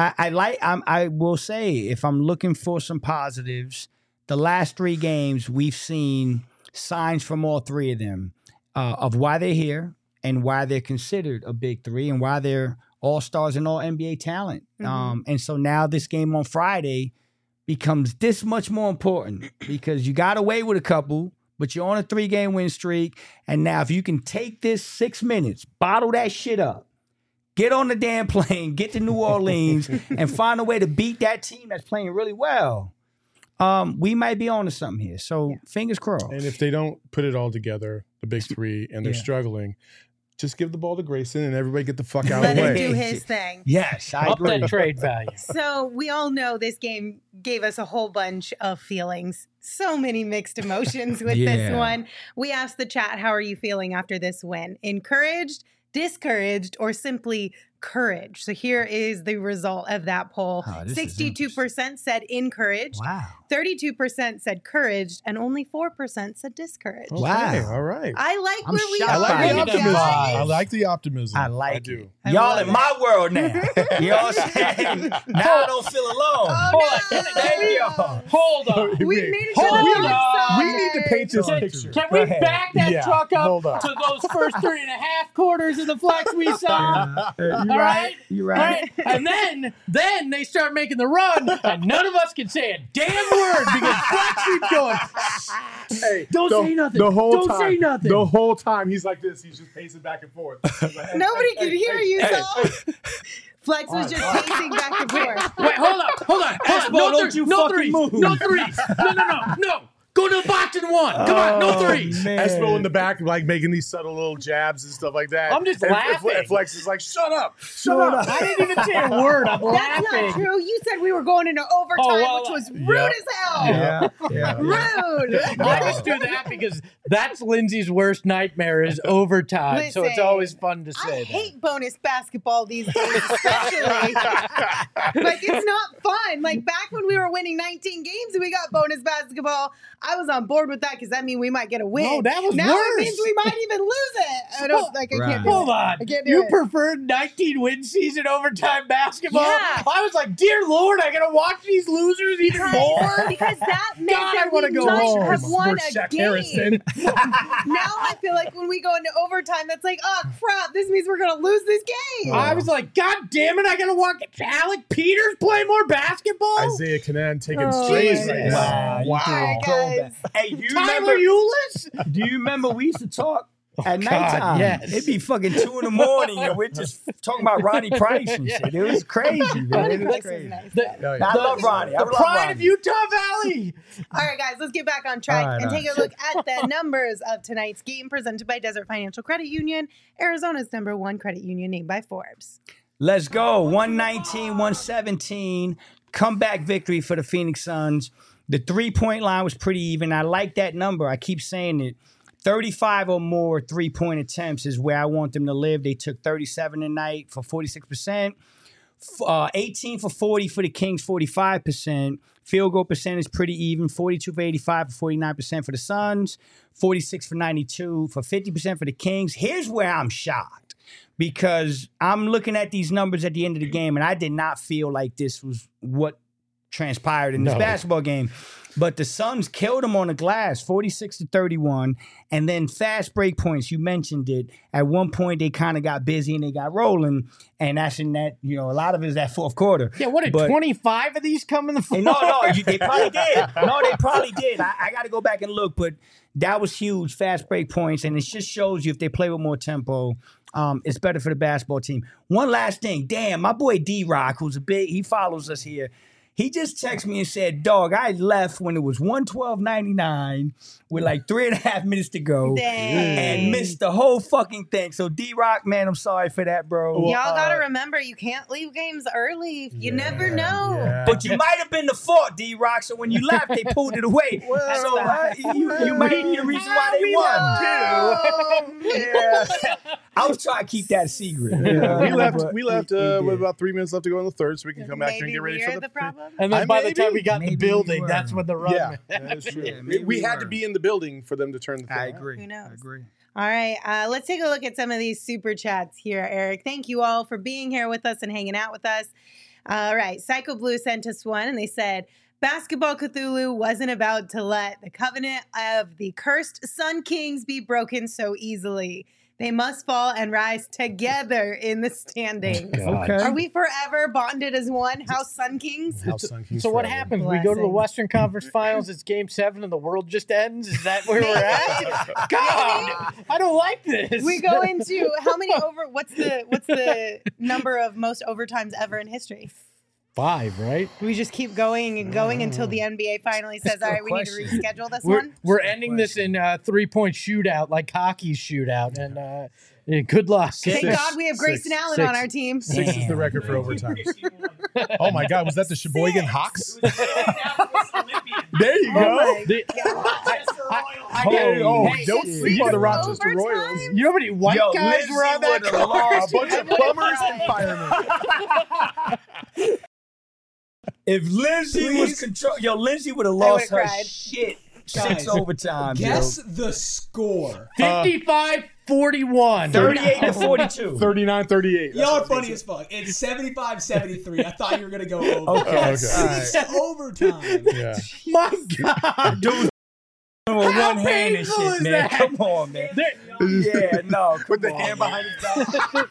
I will say, if I'm looking for some positives, the last three games we've seen signs from all three of them of why they're here and why they're considered a big three and why they're all-stars and all NBA talent. And so now this game on Friday becomes this much more important, because you got away with a couple, but you're on a 3-game win streak. And now if you can take this 6 minutes, bottle that shit up, get on the damn plane, get to New Orleans, and find a way to beat that team that's playing really well, we might be on to something here. So fingers crossed. And if they don't put it all together, the big three, and they're struggling, just give the ball to Grayson and everybody get the fuck out of the way. Let him do his thing. Yes, I agree. Up that trade value. So we all know this game gave us a whole bunch of feelings. So many mixed emotions with this one. We asked the chat, how are you feeling after this win? Encouraged, discouraged, or simply courage? So here is the result of that poll. 62% said encouraged. Wow. 32% said couraged, and only 4% said discouraged. Wow. Okay, all right. I like where we shocked. are. I like the optimism. guys. I like the optimism. I like do. it. I Y'all love in it. my world now. You know what I'm saying? Now I don't feel alone. Oh, no. Thank y'all. Hold on. We made it to Hold the on. dark We side. need to paint this Can, picture. can Go we ahead. back that Yeah, truck hold up on. to those first 3.5 quarters of the flex we saw? You're All right. right. You're All right. right. And then they start making the run, and none of us can say a damn word because Flex keeps going. Hey, Don't say nothing. The whole Don't time, say nothing. The whole time he's like this. He's just pacing back and forth. Nobody could hear you, Saul. Flex was just pacing back and forth. Wait, hold on. Espo, No, don't you no fucking threes. move. No threes. No. Go to the box and one. Come on, no threes. Man. Espo in the back, like making these subtle little jabs and stuff like that. I'm just And laughing. Flex is like, "Shut up, shut up." I didn't even say a word. I'm That's laughing. not true. You said we were going into overtime, Oh, well, which was rude yeah. as hell. Yeah. Rude. I just do that because that's Lindsay's worst nightmare is overtime. So it's Listen, always fun to say I hate bonus basketball these days, especially. Like, it's not fun. Like, back when we were winning 19 games and we got bonus basketball, I was on board with that because that means we might get a win. No, that was now worse. it means we might even lose it. I don't, like, I can't do Hold it. on. I can't do You it. preferred 19 win season overtime basketball? Yeah. I was like, dear Lord, I gotta watch these losers even more? Because that meant God, I that wanna we go might home. have won a Shaq game. Harrison. Now I feel like when we go into overtime, that's like, oh crap, this means we're gonna lose this game. I was like, God damn it, I gotta watch Alec Peters play more basketball? Isaiah Canan taking Oh, strays my right God. now. Wow. All right, guys. Hey, do you Tyler remember? Eulis? Do you remember we used to talk at God, nighttime? yes. It'd be fucking 2 in the morning and we're just talking about Ronnie Price and shit. It was crazy, man. Ronnie It was Price was crazy. nice. Oh, yeah. I love Ronnie. I The love pride Ronnie. of Utah Valley. All right, guys, let's get back on track All right, and all take a look at the numbers of tonight's game presented by Desert Financial Credit Union, Arizona's #1 credit union named by Forbes. Let's go. 119, 117. Comeback victory for the Phoenix Suns. The 3-point line was pretty even. I like that number. I keep saying it. 35 or more 3-point attempts is where I want them to live. They took 37 tonight for 46%. 18 for 40 for the Kings, 45%. Field goal percentage pretty even. 42 for 85 for 49% for the Suns. 46 for 92 for 50% for the Kings. Here's where I'm shocked. Because I'm looking at these numbers at the end of the game, and I did not feel like this was what transpired in this No. basketball game. But the Suns killed them on the glass, 46-31. And then fast break points, you mentioned it. At one point, they kind of got busy and they got rolling. And that's in that, a lot of it is that fourth quarter. Yeah, what did But- 25 of these come in the fourth? No, they probably did. No, they probably did. I got to go back and look, but that was huge, fast break points, and it just shows you if they play with more tempo, it's better for the basketball team. One last thing. Damn, my boy D-Rock, he follows us here. He just texted me and said, dog, I left when it was 112.99 with like 3.5 minutes to go Dang. and missed the whole fucking thing. So D-Rock, man, I'm sorry for that, bro. Y'all got to remember, you can't leave games early. You never know. Yeah. But you might have been the fault, D-Rock. So when you left, they pulled it away. So you might be the reason why they won. Yeah. I was trying to keep that a secret. We left with about 3 minutes left to go in the third, so we can come back here and Maybe get ready we're for the problem. And then by the time we got in the Maybe we building, were. that's when the run. Yeah, that is true. Yeah, maybe we we had to were. be in the building for them to turn the. I thing on. agree. Who knows? I agree. All right, let's take a look at some of these super chats here, Eric. Thank you all for being here with us and hanging out with us. All right, Psycho Blue sent us one, and they said, Basketball Cthulhu wasn't about to let the covenant of the cursed Sun Kings be broken so easily. They must fall and rise together in the standings. God. Okay. Are we forever bonded as one House Sun Kings? House Sun Kings So what forever. happens? We go to the Blessing. Western Conference Finals. It's Game 7, and the world just ends. Is that where we're at? God, I don't like this. We go into how many over? What's the number of most overtimes ever in history? 5, right? We just keep going and going until the NBA finally says, "All right, we need to question. reschedule this We're, one." we're ending this in 3-point shootout, like hockey's shootout, and yeah, good luck. Thank God we have Grayson Six. Allen on our team. 6 is the record for overtime. Oh my God, was that the Sheboygan Hawks? There you Oh go. my The- Hey, Hey, don't it's sleep on the overtime? Rochester Royals. You know how many white Yo, guys Lindsay were on that would've court? lost. A bunch of plumbers and firemen. If Lindsay was Lindsay would have I lost would've her cried. shit. Guys, 6 overtime. Guess the score. 55-41. 38-42. 39-38. Y'all are funny as fuck. It's 75-73. I thought you were gonna go over. Okay. Okay. It's overtime. Yeah. My God. Dude, With How one hand and painful shit, is man. that? Come on, man. Yeah, no. Put the come hand on, behind his back.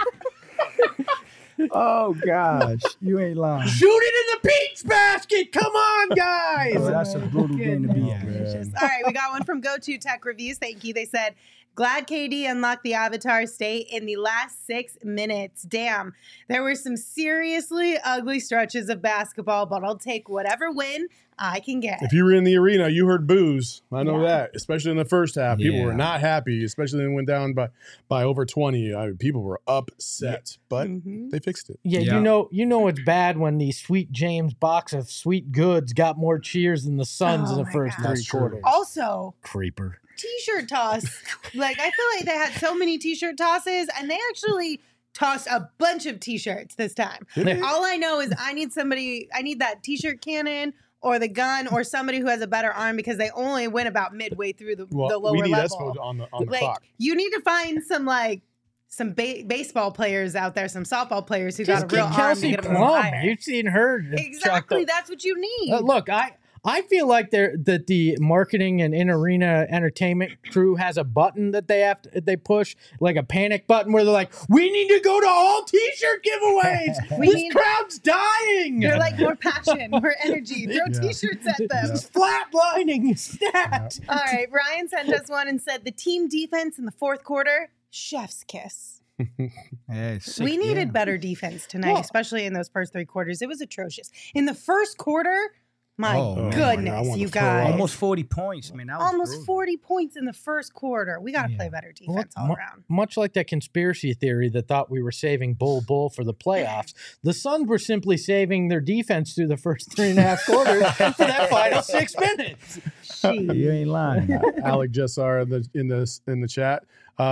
Oh gosh, you ain't lying. Shoot it in the peach basket. Come on, guys. Oh, that's a brutal game to be at. All right, we got one from Go To Tech Reviews. Thank you. They said, glad KD unlocked the Avatar state in the last 6 minutes. Damn, there were some seriously ugly stretches of basketball, but I'll take whatever win I can get. If you were in the arena, you heard boos. I know Yeah. that, especially in the first half. People Yeah. were not happy, especially when it went down by over 20. People were upset, but they fixed it. Yeah, Yeah. you know it's bad when the Sweet James box of sweet goods got more cheers than the Suns Oh in the my first God. three That's true. quarters. Also, Creeper. t-shirt toss. Like, I feel like they had so many t-shirt tosses, and they actually tossed a bunch of t-shirts this time. All I know is I need that t-shirt cannon or the gun or somebody who has a better arm, because they only went about midway through the lower we need level. Espo on the Like, clock. you need to find some baseball players out there, some softball players who Just got a real get arm to Kelsey get them Plum. higher. You've seen her. Exactly, that's what you need. Look, I feel like that the marketing and in-arena entertainment crew has a button that they push, like a panic button where they're like, we need to go to all t-shirt giveaways. This crowd's dying. They're like, more passion, more energy. Throw t-shirts at them. It's flatlining. Stat. All right, Ryan sent us one and said the team defense in the fourth quarter, chef's kiss. Yeah, We needed better defense tonight, especially in those first three quarters. It was atrocious. In the first quarter, my Oh, man. goodness, I wanna you throw guys. up. Almost 40 points. I mean, that was Almost brutal. 40 points in the first quarter. We got to play better defense all around. Much like that conspiracy theory that thought we were saving Bull for the playoffs, the Suns were simply saving their defense through the first 3.5 quarters for that final 6 minutes. You ain't lying. Alec Jessar in the chat.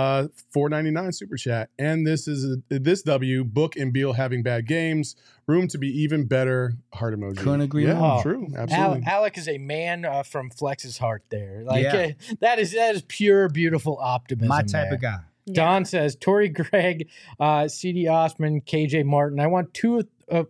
$4.99 super chat. And this W, Book and Beal having bad games. Room to be even better. Heart emoji. Couldn't agree Yeah, more. true. Absolutely. Alec is a man from Flex's heart there. Like Yeah. that is pure, beautiful optimism. My type there. of guy. Don says Torrey Gregg, C.D. Osman, KJ Martin. I want two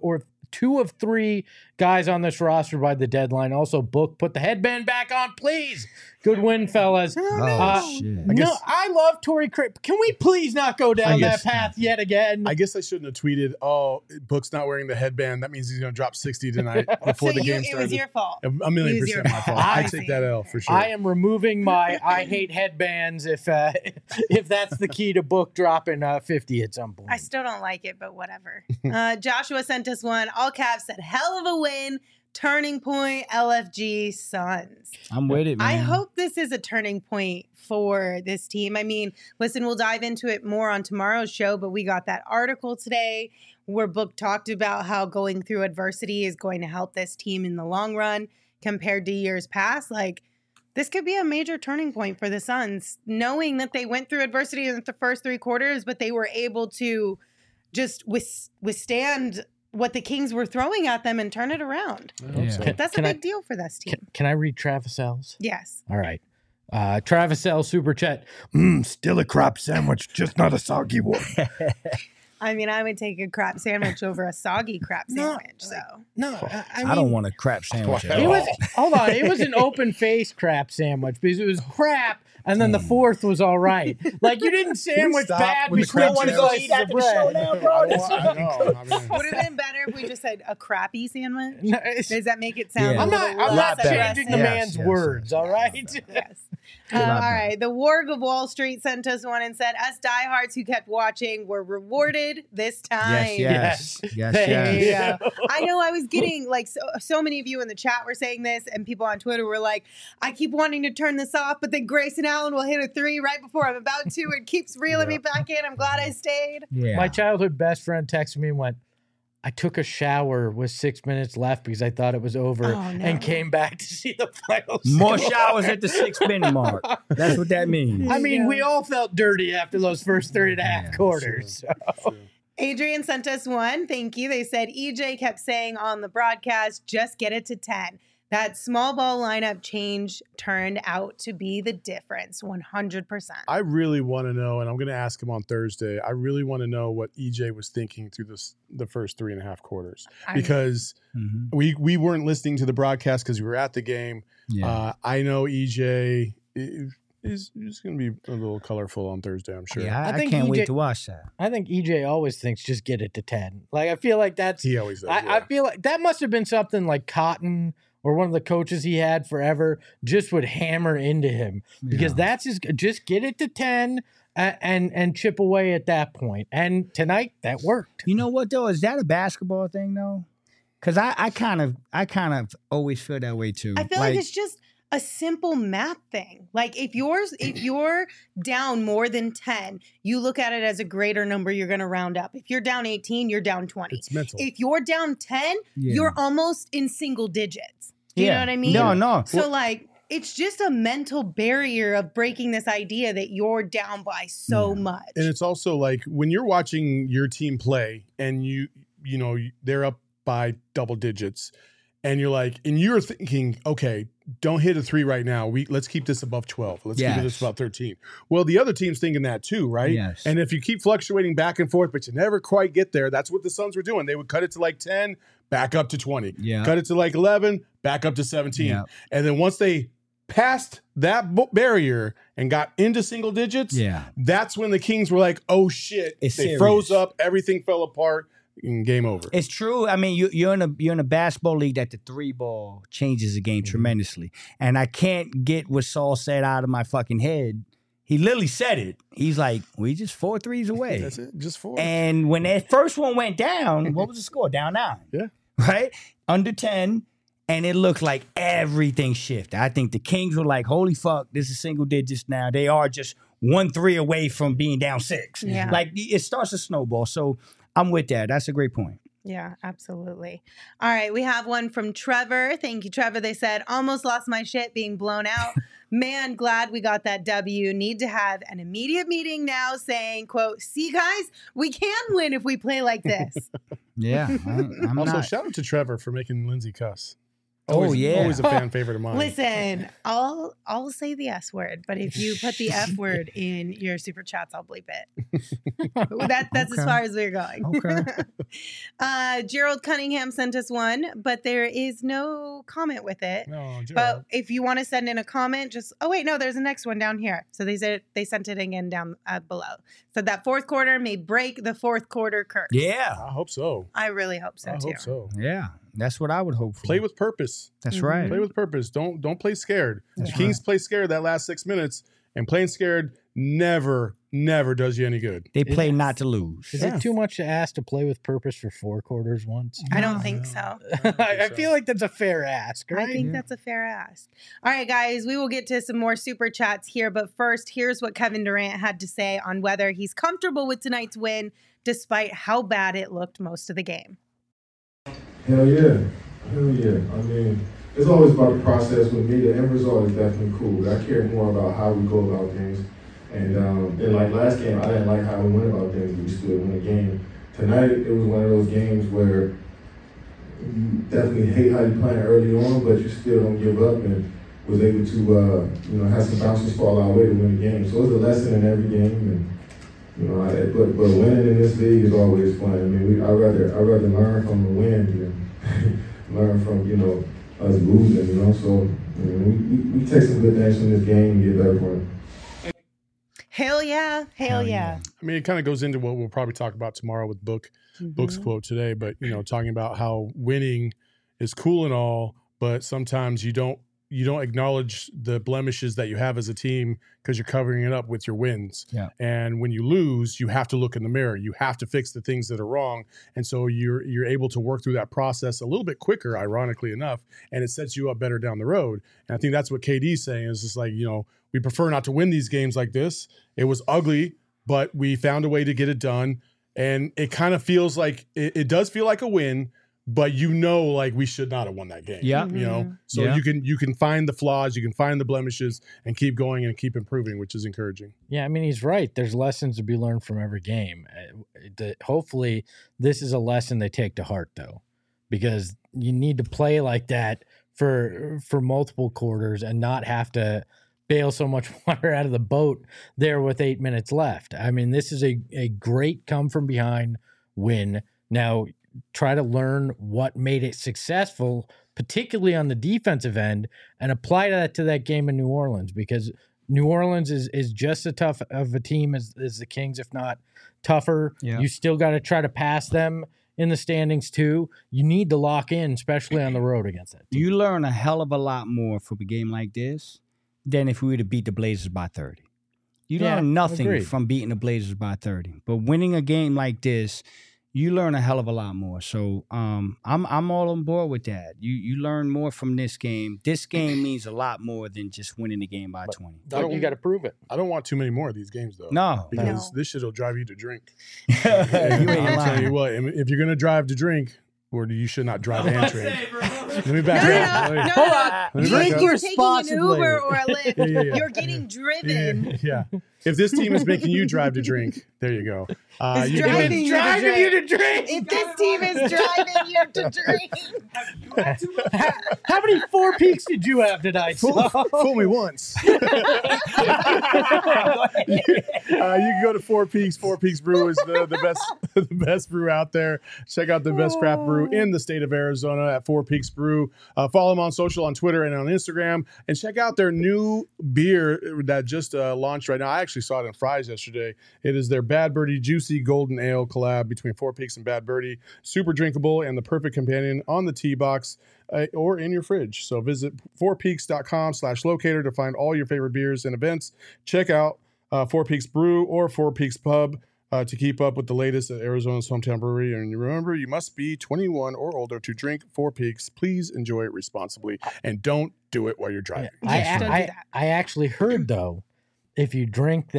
of three guys on this roster by the deadline. Also, Book, put the headband back on, please. Good win, fellas. Oh, shit. No, I love Torrey Craig. Can we please not go down that path yet again? I guess I shouldn't have tweeted, oh, Book's not wearing the headband. That means he's going to drop 60 tonight before the game it started. was your fault. A million It was your percent my fault. fault. I I take see. that L for sure. I am removing my I hate headbands if that's the key to Book dropping 50 at some point. I still don't like it, but whatever. Joshua sent us one. All caps said, hell of a win. Turning point, LFG Suns. I'm with it, man. I hope this is a turning point for this team. I mean, listen, we'll dive into it more on tomorrow's show, but we got that article today where Book talked about how going through adversity is going to help this team in the long run compared to years past. Like, this could be a major turning point for the Suns, knowing that they went through adversity in the first three quarters, but they were able to just withstand what the Kings were throwing at them and turn it around. Yeah. That's a big deal for this team. Can I read Travis L's? Yes. All right. Travis L. Super Chat. Still a crap sandwich, just not a soggy one. I mean, I would take a crap sandwich over a soggy crap sandwich. No, I mean, I don't want a crap sandwich at It all. was hold on. It was an open face crap sandwich because it was crap, and then the fourth was all right. Like you didn't sandwich stop bad with the between crap two sandwich? slices of bread. now, bro. I know. I mean, would have been better if we just said a crappy sandwich. No, it's- Does that make it sound? Yeah. a I'm little not less changing the aggressive? man's Yes, words. All right. Yes. lot All better. right. The Warg of Wall Street sent us one and said, us diehards who kept watching were rewarded this time. Yes. There Yes. Yeah. I know I was getting like so many of you in the chat were saying this, and people on Twitter were like, I keep wanting to turn this off, but then Grayson Allen will hit a three right before I'm about to. It keeps reeling me back in. I'm glad I stayed. Yeah. My childhood best friend texted me and went, I took a shower with 6 minutes left because I thought it was over Oh, no. and came back to see the final More score. showers at the 6 minute mark. That's what that means. I mean, Yeah. we all felt dirty after those first 3.5 quarters. So. Adrian sent us one. Thank you. They said EJ kept saying on the broadcast, just get it to 10. That small ball lineup change turned out to be the difference, 100%. I really want to know, and I'm going to ask him on Thursday. I really want to know what EJ was thinking through the first 3.5 quarters, because we weren't listening to the broadcast because we were at the game. Yeah. I know EJ is going to be a little colorful on Thursday, I'm sure. Yeah, I think can't EJ wait to watch that. I think EJ always thinks just get it to 10. Like, I feel like that's He always does. I feel like that must have been something like Cotton or one of the coaches he had forever just would hammer into him, because that's just get it to 10 and chip away at that point. And tonight that worked. You know what though? Is that a basketball thing though? Because I kind of always feel that way too. I feel like it's just a simple math thing. Like if you're down more than 10, you look at it as a greater number, you're going to round up. If you're down 18, you're down 20. It's mental. If you're down 10, you're almost in single digits. Do you know what I mean? No. So like it's just a mental barrier of breaking this idea that you're down by so much. And it's also like when you're watching your team play and you know they're up by double digits, and you're thinking, okay, don't hit a 3 right now. Let's keep this above 12. Let's keep this above 13. Well, the other team's thinking that too, right? Yes. And if you keep fluctuating back and forth, but you never quite get there, that's what the Suns were doing. They would cut it to like 10, back up to 20. Yeah. Cut it to like 11, back up to 17. Yeah. And then once they passed that barrier and got into single digits, that's when the Kings were like, oh shit. It's they serious. froze up, everything fell apart. Game over. It's true. I mean, you're in a basketball league that the 3 ball changes the game tremendously, and I can't get what Saul said out of my fucking head. He literally said it. He's like, "We just 4 threes away." That's it. Just 4. And when that first one went down, what was the score? Down 9. Yeah. Right? Under 10. And it looked like everything shifted. I think the Kings were like, holy fuck, this is single digits now. They are just 1 3 away from being down 6. Yeah. Like it starts to snowball. So I'm with that. That's a great point. Yeah, absolutely. All right, we have one from Trevor. Thank you, Trevor. They said, almost lost my shit being blown out. Man, glad we got that W. Need to have an immediate meeting now saying, quote, see, guys, we can win if we play like this. Yeah. I'm also, not. shout out to Trevor for making Lindsay cuss. Yeah. Always a fan favorite of mine. Listen, I'll say the S word, but if you put the F word in your super chats, I'll bleep it. That's as far as we're going. Okay. Gerald Cunningham sent us one, but there is no comment with it. No, Gerald. But if you want to send in a comment, there's a next one down here. So they sent it again down below. So that fourth quarter may break the fourth quarter curse. Yeah. I hope so. I really hope so I too. hope so. Yeah. That's what I would hope for. Play with purpose. That's right. Play with purpose. Don't play scared. The Kings play scared that last 6 minutes, and playing scared never does you any good. They play not to lose. Is it too much to ask to play with purpose for 4 quarters once? I don't think so. I feel like that's a fair ask, right? I think that's a fair ask. All right, guys, we will get to some more super chats here. But first, here's what Kevin Durant had to say on whether he's comfortable with tonight's win, despite how bad it looked most of the game. Hell yeah. Hell yeah. I mean, it's always about the process. With me, the end result is definitely cool. But I care more about how we go about things. And like last game, I didn't like how we went about things, but we still win a game. Tonight, it was one of those games where you definitely hate how you're playing early on, but you still don't give up and was able to, have some bounces fall our way to win the game. So it's a lesson in every game. And, but winning in this league is always fun. I mean, I'd rather learn from the win than learn from, us losing, So, we take some good things from this game and get better for it. Hell yeah. Hell yeah. I mean, it kind of goes into what we'll probably talk about tomorrow with Book's quote today, but, talking about how winning is cool and all, but sometimes you don't acknowledge the blemishes that you have as a team because you're covering it up with your wins. Yeah. And when you lose, you have to look in the mirror. You have to fix the things that are wrong. And so you're able to work through that process a little bit quicker, ironically enough, and it sets you up better down the road. And I think that's what KD's saying is just like, we prefer not to win these games like this. It was ugly, but we found a way to get it done. And it kind of feels like it does feel like a win, but like we should not have won that game. Yeah. So you can find the flaws, you can find the blemishes and keep going and keep improving, which is encouraging. Yeah, I mean, he's right. There's lessons to be learned from every game. Hopefully this is a lesson they take to heart, though, because you need to play like that for multiple quarters and not have to bail so much water out of the boat there with 8 minutes left. I mean, this is a great come from behind win. Now, try to learn what made it successful, particularly on the defensive end, and apply that to that game in New Orleans, because New Orleans is just as tough of a team as the Kings, if not tougher. Yeah. You still got to try to pass them in the standings too. You need to lock in, especially on the road against that team. You learn a hell of a lot more from a game like this than if we were to beat the Blazers by 30. You learn nothing agreed. from beating the Blazers by 30. But winning a game like this, you learn a hell of a lot more. So I'm all on board with that. You learn more from this game. This game means a lot more than just winning the game by 20. But you got to prove it. I don't want too many more of these games, though. No. Because this shit will drive you to drink. You ain't I'll tell lying. you what, if you're going to drive to drink, or you should not drive and drink. Let me No, back up. no, no, Wait. no, Let me no. back You're up. taking an responsibly. Uber or a Lyft. Yeah. You're getting driven. Yeah. If this team is making you drive to drink, there you go. It's You driving can- you Driving you to drink. If this team is driving you to drink, How many 4 peaks did you have tonight? Fool me once. You can go to Four Peaks. Four Peaks Brew is the best the best brew out there. Check out the best craft brew in the state of Arizona at Four Peaks Brew. Follow them on social, on Twitter and on Instagram, and check out their new beer that just launched right now. I actually saw it in Fry's yesterday. It is their Bad Birdie Juicy Golden Ale collab between Four Peaks and Bad Birdie. Super drinkable and the perfect companion on the tee box or in your fridge. So visit fourpeaks.com/locator to find all your favorite beers and events. Check out Four Peaks Brew or Four Peaks Pub to keep up with the latest at Arizona's hometown brewery. And remember, you must be 21 or older to drink Four Peaks. Please enjoy it responsibly and don't do it while you're driving. Yes, don't do that. I actually heard, though, if you drink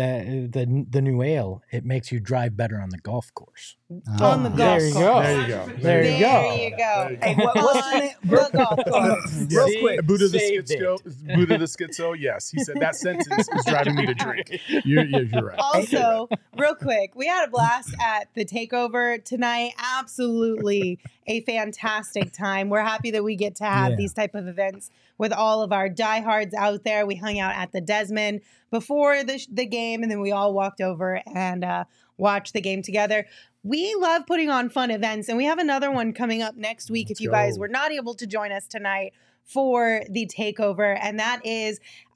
the new ale, it makes you drive better on the golf course. on the golf There you course. go. There you go. There you go. There you go. Hey, what's the name? The golf course. Real See? quick. Buddha the Saved it. Schizo. Buddha the Schizo. Yes, he said that sentence is driving me to drink. You're right. Also, real quick, we had a blast at the takeover tonight. Absolutely a fantastic time. We're happy that we get to have Yeah. these type of events with all of our diehards out there. We hung out at the Desmond before the game, and then we all walked over and watched the game together. We love putting on fun events, and we have another one coming up next week if you guys were not able to join us tonight for the takeover, and that is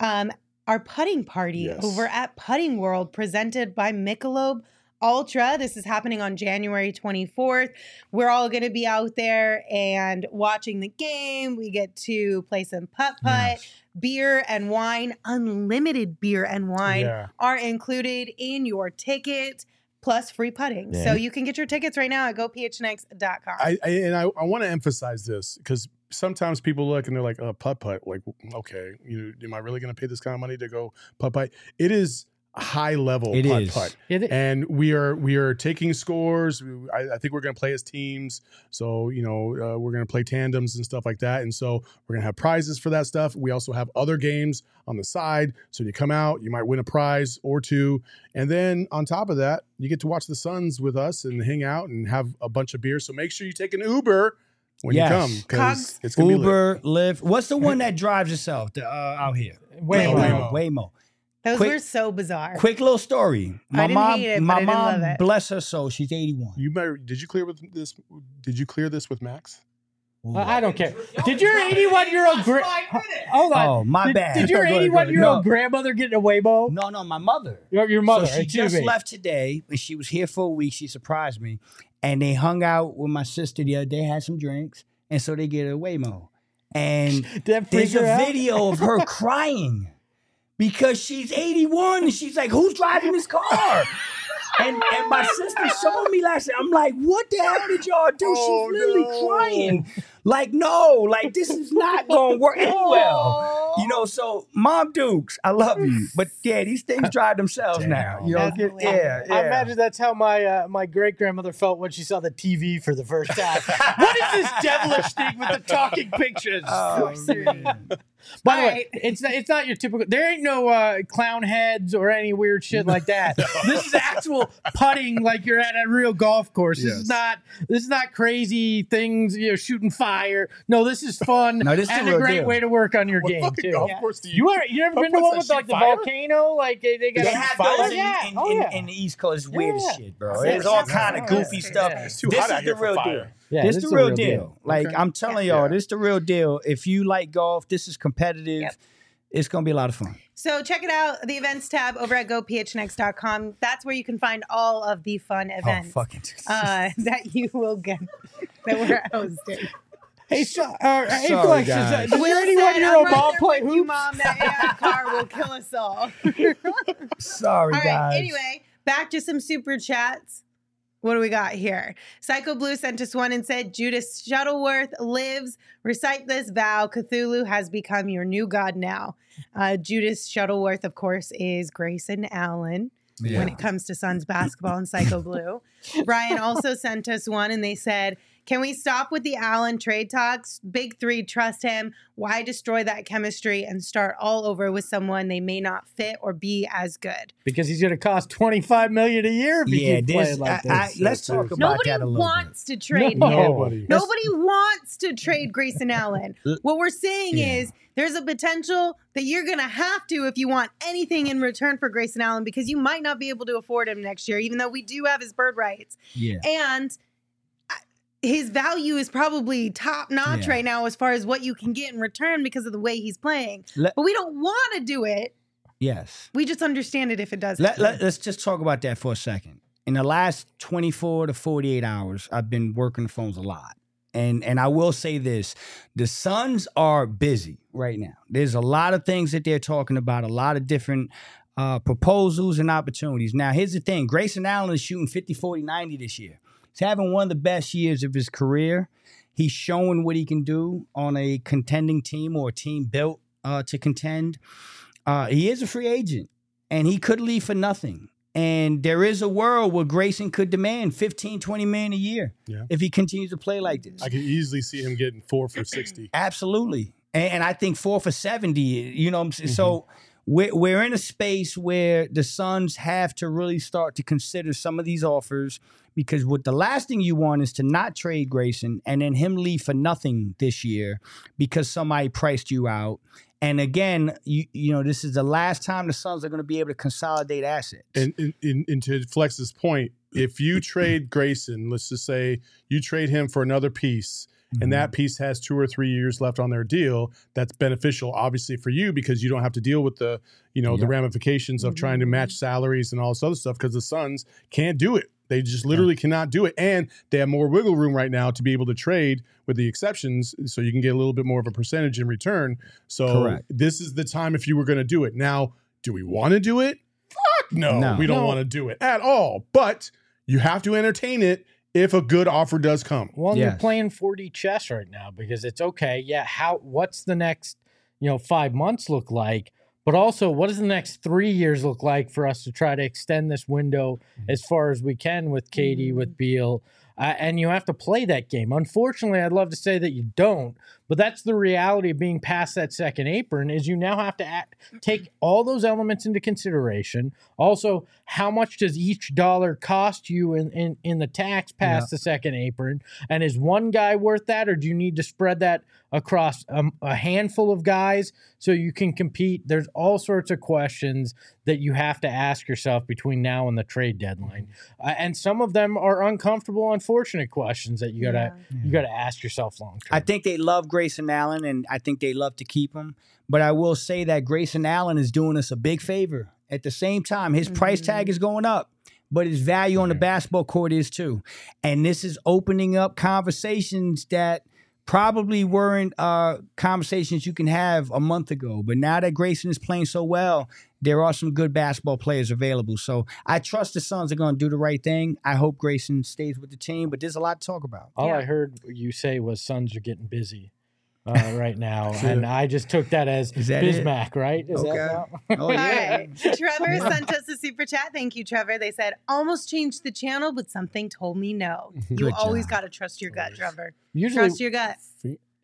our putting party Yes. over at Putting World, presented by Michelob Ultra. This is happening on January 24th. We're all going to be out there and watching the game. We get to play some putt-putt. Beer and wine, unlimited beer and wine Yeah. are included in your ticket, plus free putting. Yeah. So you can get your tickets right now at gophnx.com. I want to emphasize this because sometimes people look and they're like, putt-putt. Like, okay, am I really going to pay this kind of money to go putt-putt? It is high level It is. putt-putt. And We are taking scores. I think we're going to play as teams. So, we're going to play tandems and stuff like that. And so we're going to have prizes for that stuff. We also have other games on the side. So you come out, you might win a prize or two. And then on top of that, you get to watch the Suns with us and hang out and have a bunch of beer. So make sure you take an Uber when Yes. you come because Cogs. it's going to be lit. Uber, Lyft. What's the one that drives itself out here? Waymo. Waymo. Those quick- were so bizarre. Quick little story. I didn't hate it, but I didn't love mom, it. bless her soul, she's 81. Did you clear this with Max? I don't care. Did your 81-year-old hold on? Oh, my bad. Did your Go ahead, 81-year-old no. grandmother get a Waymo? No, my mother. Your mother. So she excuse just me. left today, and she was here for a week. She surprised me, and they hung out with my sister the other day, had some drinks, and so they get a Waymo. And Did that freak there's her a out? video of her crying because she's 81, and she's like, "Who's driving this car?" And my sister showed me last night. I'm like, "What the hell did y'all do?" Oh, she's literally no. crying. Like, no, like this is not gonna work well. So Mom Dukes, I love you. But yeah, these things drive themselves now. That's Get, hilarious. yeah. I imagine that's how my great grandmother felt when she saw the TV for the first time. What is this devilish thing with the talking pictures? Oh, man. By the All way, right. it's not your typical. There ain't no clown heads or any weird shit like that. This is actual putting like you're at a real golf course. This is not crazy things. Shooting fire. No, this is fun. No, this is and the a real great deal. way to work on your What game fucking too. golf Yeah. course do you? You ever been to Golf one course with that like the shoot fire? volcano? Like they got They a have fire? those Yeah. in the East Coast. It's weird Yeah. as shit, bro. Yeah. It's all Yeah. kind of Yeah. goofy Yeah. stuff. Yeah. It's too This hot out is here the for real fire. deal. Yeah, This this the is the real real deal. deal. Like Okay. I'm telling Yeah. y'all, this the real deal. If you like golf, this is competitive. Yep. It's gonna be a lot of fun. So check it out, the events tab over at gophnx.com. That's where you can find all of the fun events that you will get that we're hosting. Hey, hey, Sorry, Flex, guys. is there anyone said, here "I'm on right ball there play with you, hoops? Mom. That AI car will kill us all." Sorry, All right. guys. Anyway, back to some super chats. What do we got here? Psycho Blue sent us one and said, Judas Shuttleworth lives. Recite this vow. Cthulhu has become your new god now. Judas Shuttleworth, of course, is Grayson Allen when it comes to Suns basketball and Psycho Blue. Brian also sent us one and they said, can we stop with the Allen trade talks? Big three, trust him. Why destroy that chemistry and start all over with someone they may not fit or be as good? Because he's going to cost $25 million a year if he keeps this, playing like this. let's talk about Nobody that a little wants to trade No. him. Nobody. Nobody wants to trade Grayson Allen. What we're saying Yeah. is there's a potential that you're going to have to if you want anything in return for Grayson Allen because you might not be able to afford him next year, even though we do have his bird rights. bit. Yeah. And his value is probably top notch Yeah. right now as far as what you can get in return because of the way he's playing. Let- But we don't want to do it. Yes. We just understand it if it does. Let's just talk about that for a second. In the last 24 to 48 hours, I've been working the phones a lot. And I will say this, the Suns are busy right now. There's a lot of things that they're talking about, a lot of different proposals and opportunities. Now, here's the thing. Grayson Allen is shooting 50, 40, 90 this year. He's having one of the best years of his career. He's showing what he can do on a contending team or a team built to contend. He is a free agent, and he could leave for nothing. And there is a world where Grayson could demand $15, $20 million a year if he continues to play like this. I could easily see him getting 4 for 60. Absolutely. And I think 4 for 70, you know what I'm saying? So we're in a space where the Suns have to really start to consider some of these offers because what the last thing you want is to not trade Grayson and then him leave for nothing this year because somebody priced you out. And again, you know, this is the last time the Suns are going to be able to consolidate assets. And to Flex's point, if you trade Grayson, let's just say you trade him for another piece, and that piece has 2 or 3 years left on their deal, that's beneficial, obviously, for you because you don't have to deal with the, the ramifications of trying to match salaries and all this other stuff because the Suns can't do it. They just literally cannot do it. And they have more wiggle room right now to be able to trade with the exceptions so you can get a little bit more of a percentage in return. So this is the time if you were going to do it. Now, do we want to do it? Fuck no. We don't want to do it at all. But you have to entertain it if a good offer does come. Well, you're playing 4D chess right now because it's okay. Yeah, what's the next, 5 months look like? But also, what does the next 3 years look like for us to try to extend this window as far as we can with Katie, with Beal? And you have to play that game. Unfortunately, I'd love to say that you don't, but that's the reality of being past that second apron is you now have to take all those elements into consideration. Also, how much does each dollar cost you in the tax past the second apron? And is one guy worth that, or do you need to spread that across a handful of guys so you can compete? There's all sorts of questions that you have to ask yourself between now and the trade deadline. And some of them are uncomfortable, unfortunate questions that you gotta ask yourself long term. I think they love Grayson Allen, and I think they love to keep him. But I will say that Grayson Allen is doing us a big favor. At the same time, his price tag is going up, but his value on the basketball court is too. And this is opening up conversations that probably weren't conversations you can have a month ago. But now that Grayson is playing so well, there are some good basketball players available. So I trust the Suns are going to do the right thing. I hope Grayson stays with the team, but there's a lot to talk about. All I heard you say was Suns are getting busy right now. And I just took that as Bismack, right? Is that Oh, All yeah. right. Trevor sent us a super chat. Thank you, Trevor. They said, almost changed the channel, but something told me no. You Good always job. got to trust your gut, Trevor. Usually, Trust your gut.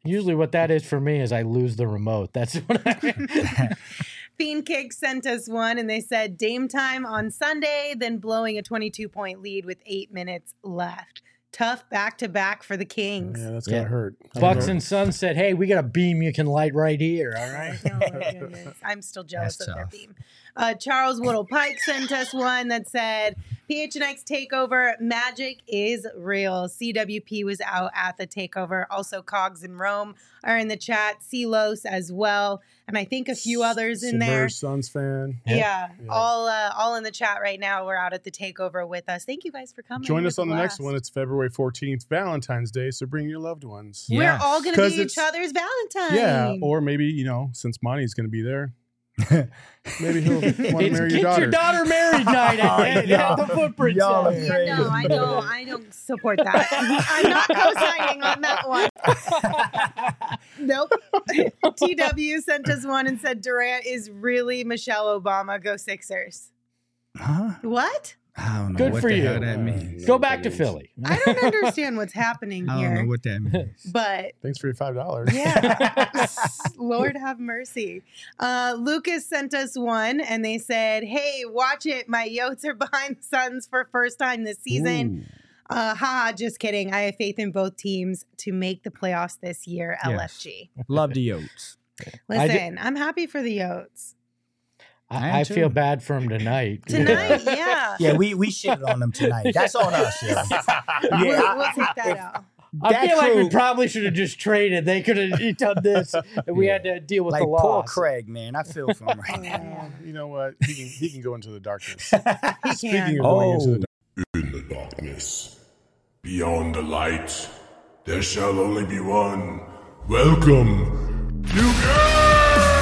Usually what that is for me is I lose the remote. That's what I Fiend Kick sent us one, and they said Dame time on Sunday, then blowing a 22-point lead with 8 minutes left. Tough back-to-back for the Kings. Yeah, that's gonna hurt. Bucks and Suns said, hey, we got a beam you can light right here, all right? Oh, my goodness. I'm still jealous That's of their tough. beam. Charles Woodle Pike sent us one that said, PHNX takeover, magic is real. CWP was out at the takeover. Also, Cogs and Rome are in the chat. Celos as well. And I think a few others in there. Submerged Suns fan. Yeah, all in the chat right now. We're out at the takeover with us. Thank you guys for coming. Join It us was on a the next blast. one. It's February 14th, Valentine's Day. So bring your loved ones. We're Yes. all going to 'Cause be it's- each other's Valentine. Yeah, or maybe since Monty's going to be there, maybe he'll want to It's marry your get daughter. your daughter married night at the Footprint Y'all are Center. Yeah, no, I don't support that. I'm not co-signing on that one. Nope. TW sent us one and said Durant is really Michelle Obama. Go Sixers. Huh? What? I don't know Good what for the you. hell that means. Go back to Philly. I don't understand what's happening I don't know here. what that means. But Thanks for your $5. yeah, Lord have mercy. Lucas sent us one and they said, hey, watch it. My Yotes are behind the Suns for first time this season. Haha, just kidding. I have faith in both teams to make the playoffs this year. Yes. LFG. Love the Yotes. Listen, I'm happy for the Yotes. I feel bad for him tonight. Tonight, yeah. Yeah, we shitted on them tonight. That's on us. Yeah, We'll take that out. I That feel like we crew- probably should have just traded. They could have done this, and we had to deal with like the poor loss. Craig, man. I feel for him right now. You know what? He can go into the darkness. He Speaking can. of going into the In the darkness, beyond the light, there shall only be one. Welcome to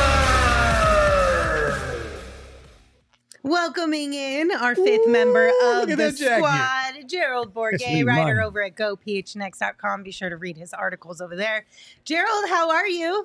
Welcoming in our fifth member of look at the that jacket. squad, Gerald Bourget, Sweet writer money. over at GoPHNX.com. Be sure to read his articles over there. Gerald, how are you?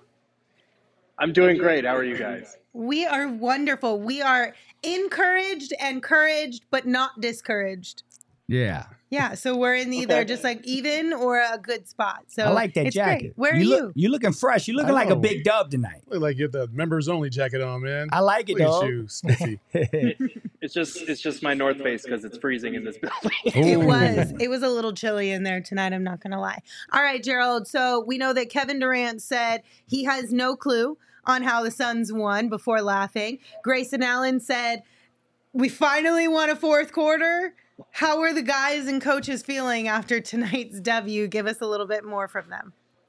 I'm doing great. How are you guys? We are wonderful. We are encouraged, but not discouraged. Yeah. Yeah, so we're in either just like even or a good spot. So I like that it's jacket. Great. Where are you? You looking fresh. You looking I like a know. big dub tonight. look like you have the members only jacket on, man. I like it, Look dog. at you, Spiffy. It's just my North Face because it's freezing in this building. It was a little chilly in there tonight, I'm not gonna lie. All right, Gerald. So we know that Kevin Durant said he has no clue on how the Suns won before laughing. Grayson Allen said, we finally won a fourth quarter. How are the guys and coaches feeling after tonight's W? Give us a little bit more from them.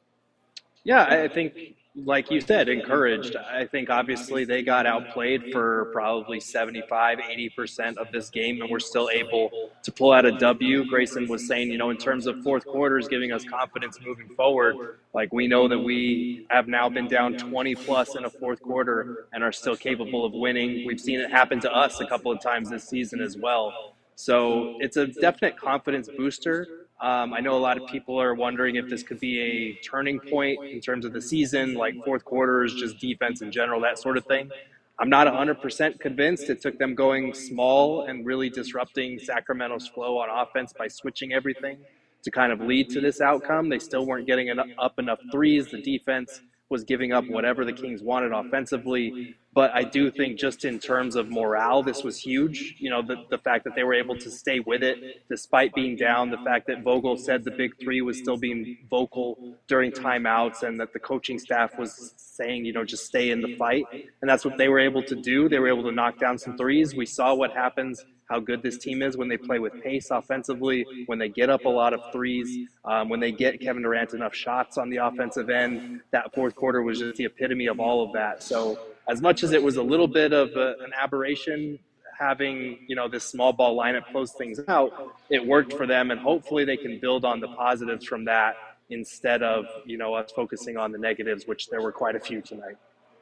Yeah, I think, like you said, encouraged. I think obviously they got outplayed for probably 75, 80% of this game, and we're still able to pull out a W. Grayson was saying, in terms of fourth quarters, giving us confidence moving forward. Like, we know that we have now been down 20 plus in a fourth quarter and are still capable of winning. We've seen it happen to us a couple of times this season as well. So it's a definite confidence booster. I know a lot of people are wondering if this could be a turning point in terms of the season, like fourth quarters, just defense in general, that sort of thing. I'm not 100% convinced. It took them going small and really disrupting Sacramento's flow on offense by switching everything to kind of lead to this outcome. They still weren't getting up enough threes. The defense was giving up whatever the Kings wanted offensively. But I do think just in terms of morale, this was huge. The fact that they were able to stay with it despite being down, the fact that Vogel said the big three was still being vocal during timeouts and that the coaching staff was saying, just stay in the fight. And that's what they were able to do. They were able to knock down some threes. We saw what happens, how good this team is when they play with pace offensively, when they get up a lot of threes, when they get Kevin Durant enough shots on the offensive end. That fourth quarter was just the epitome of all of that. So as much as it was a little bit of an aberration, having, this small ball lineup close things out, it worked for them. And hopefully they can build on the positives from that instead of, us focusing on the negatives, which there were quite a few tonight.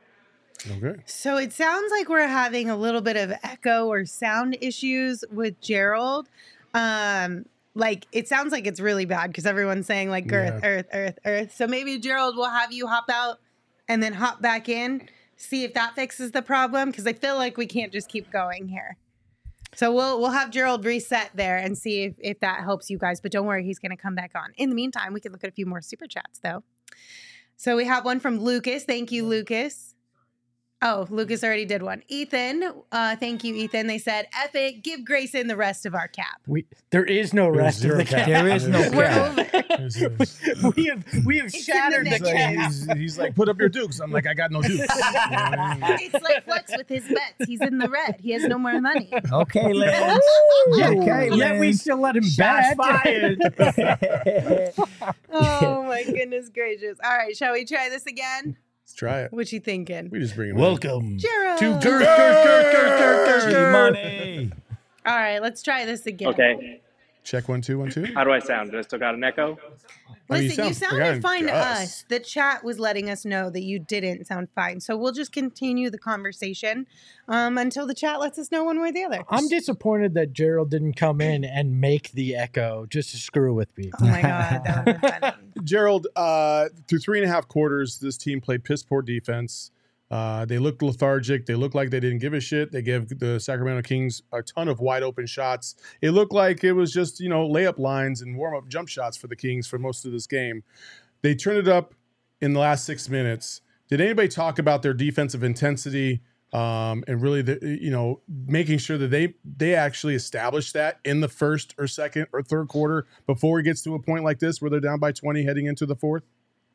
Okay. So it sounds like we're having a little bit of echo or sound issues with Gerald. It sounds like it's really bad because everyone's saying like earth. So maybe Gerald will have you hop out and then hop back in, see if that fixes the problem, because I feel like we can't just keep going here. So we'll have Gerald reset there and see if that helps you guys. But don't worry, he's going to come back on. In the meantime, we can look at a few more super chats though. So we have one from Lucas. Thank you, Lucas. Oh, Lucas already did one. Ethan, thank you, Ethan. They said, F it, give Grayson the rest of our cap. There is no rest of the cap. There is no We're cap. over. we have shattered the cap. He's like, put up your dukes. I'm like, I got no dukes. You know what I mean? It's like Flex with his bets. He's in the red. He has no more money. Okay, Lance. Okay, Yet we Lance. still let him Shots bet. fired. Oh, my goodness gracious. All right, shall we try this again? Let's try it. What you thinking? We just bring him Welcome Gerald. to G-Money. All right, let's try this again. Okay. Check 1 2 1 2. How do I sound? Do I still got an echo? I mean, Listen, you sound sounded fine fine to to us. us. The chat was letting us know that you didn't sound fine. So we'll just continue the conversation until the chat lets us know one way or the other. I'm disappointed that Gerald didn't come in and make the echo just to screw with me. Oh my God, that would have been funny. Gerald, through 3.5 quarters, this team played piss poor defense. They looked lethargic. They looked like they didn't give a shit. They gave the Sacramento Kings a ton of wide open shots. It looked like it was just, layup lines and warm up jump shots for the Kings for most of this game. They turned it up in the last 6 minutes. Did anybody talk about their defensive intensity and really, making sure that they actually established that in the first or second or third quarter before it gets to a point like this where they're down by 20 heading into the fourth?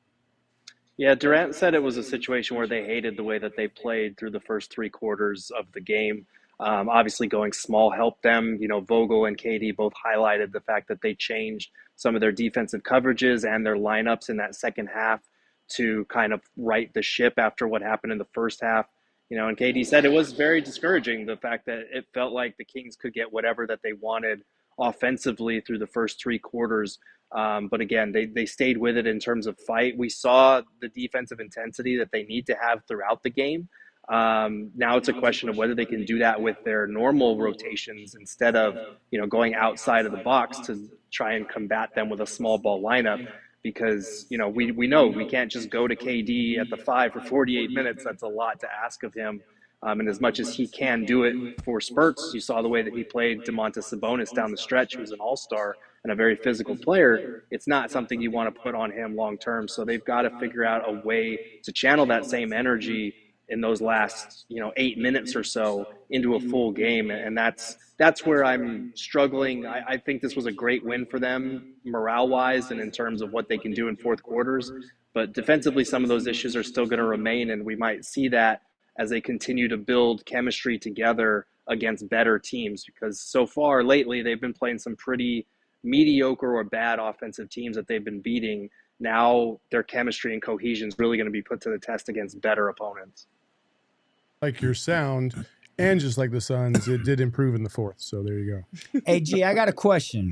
Yeah, Durant said it was a situation where they hated the way that they played through the first 3 quarters of the game. Obviously, going small helped them. Vogel and KD both highlighted the fact that they changed some of their defensive coverages and their lineups in that second half to kind of right the ship after what happened in the first half. And KD said it was very discouraging, the fact that it felt like the Kings could get whatever that they wanted offensively through the first 3 quarters. But again, they stayed with it in terms of fight. We saw the defensive intensity that they need to have throughout the game. Now it's a question of whether they can do that with their normal rotations instead of, going outside of the box to try and combat them with a small ball lineup. Because, we know we can't just go to KD at the 5 for 48 minutes. That's a lot to ask of him. And as much as he can do it for spurts, you saw the way that he played Domantas Sabonis down the stretch, who's an all-star and a very physical player. It's not something you want to put on him long-term. So they've got to figure out a way to channel that same energy in those last, 8 minutes or so into a full game. And that's where I'm struggling. I think this was a great win for them morale-wise and in terms of what they can do in fourth quarters. But defensively, some of those issues are still going to remain, and we might see that as they continue to build chemistry together against better teams, because so far lately they've been playing some pretty mediocre or bad offensive teams that they've been beating. Now their chemistry and cohesion is really going to be put to the test against better opponents. Like your sound, and just like the Suns, it did improve in the fourth. So there you go. Hey, G, I got a question.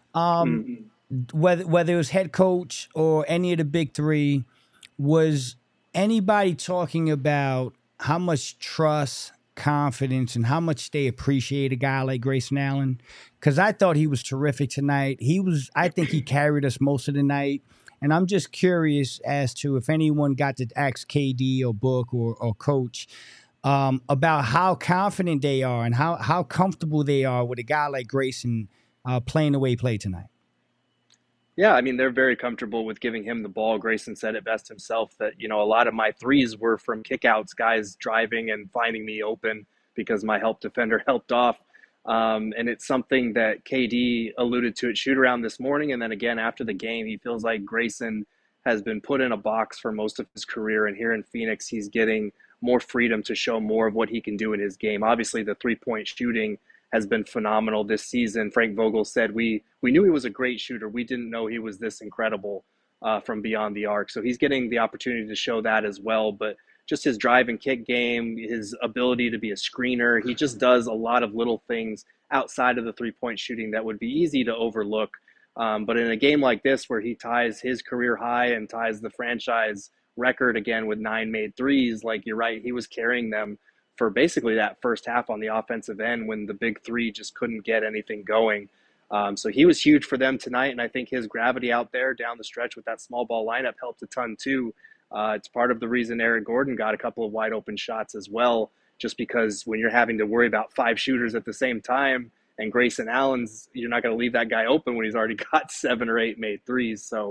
Whether it was head coach or any of the big three, was anybody talking about how much trust, confidence, and how much they appreciate a guy like Grayson Allen? Because I thought he was terrific tonight. I think he carried us most of the night. And I'm just curious as to if anyone got to ask KD or Book or Coach about how confident they are and how comfortable they are with a guy like Grayson playing the way he played tonight. Yeah, I mean, they're very comfortable with giving him the ball. Grayson said it best himself that, a lot of my threes were from kickouts, guys driving and finding me open because my help defender helped off. And it's something that KD alluded to at shoot-around this morning. And then again, after the game, he feels like Grayson has been put in a box for most of his career. And here in Phoenix, he's getting more freedom to show more of what he can do in his game. Obviously, the three-point shooting has been phenomenal this season. Frank Vogel said we knew he was a great shooter. We didn't know he was this incredible from beyond the arc. So he's getting the opportunity to show that as well. But just his drive and kick game, his ability to be a screener, he just does a lot of little things outside of the three-point shooting that would be easy to overlook. But in a game like this where he ties his career high and ties the franchise record again with 9 made threes, like you're right, he was carrying them for basically that first half on the offensive end when the big three just couldn't get anything going. So he was huge for them tonight, and I think his gravity out there down the stretch with that small ball lineup helped a ton too. It's part of the reason Eric Gordon got a couple of wide open shots as well, just because when you're having to worry about 5 shooters at the same time, and Grayson Allen's, you're not going to leave that guy open when he's already got 7 or 8 made threes. So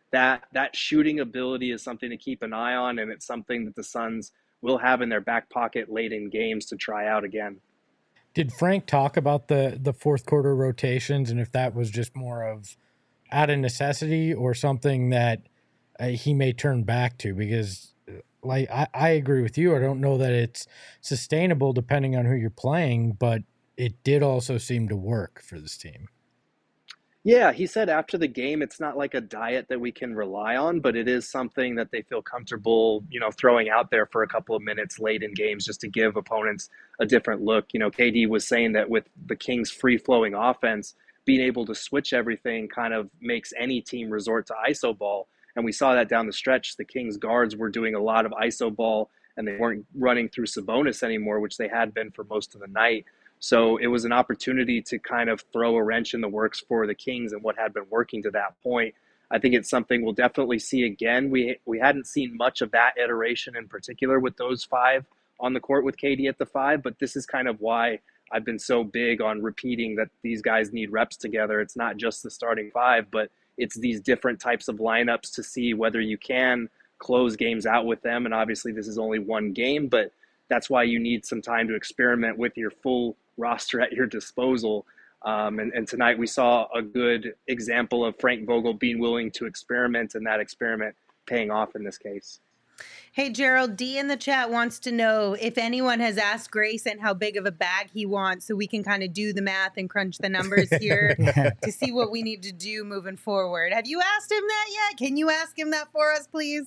that shooting ability is something to keep an eye on, and it's something that the Suns will have in their back pocket late in games to try out again. Did Frank talk about the fourth quarter rotations and if that was just more of out of necessity or something that he may turn back to? Because like I agree with you. I don't know that it's sustainable depending on who you're playing, but it did also seem to work for this team. Yeah, he said after the game, it's not like a diet that we can rely on, but it is something that they feel comfortable, throwing out there for a couple of minutes late in games just to give opponents a different look. KD was saying that with the Kings' free-flowing offense, being able to switch everything kind of makes any team resort to ISO ball. And we saw that down the stretch. The Kings guards were doing a lot of ISO ball, and they weren't running through Sabonis anymore, which they had been for most of the night. So it was an opportunity to kind of throw a wrench in the works for the Kings and what had been working to that point. I think it's something we'll definitely see again. We hadn't seen much of that iteration in particular with those five on the court with KD at the five, but this is kind of why I've been so big on repeating that these guys need reps together. It's not just the starting five, but it's these different types of lineups to see whether you can close games out with them. And obviously this is only one game, but that's why you need some time to experiment with your full roster at your disposal. And tonight we saw a good example of Frank Vogel being willing to experiment, and that experiment paying off in this case. Hey, Gerald, D in the chat wants to know if anyone has asked Grayson how big of a bag he wants so we can kind of do the math and crunch the numbers here to see what we need to do moving forward. Have you asked him that yet? Can you ask him that for us, please?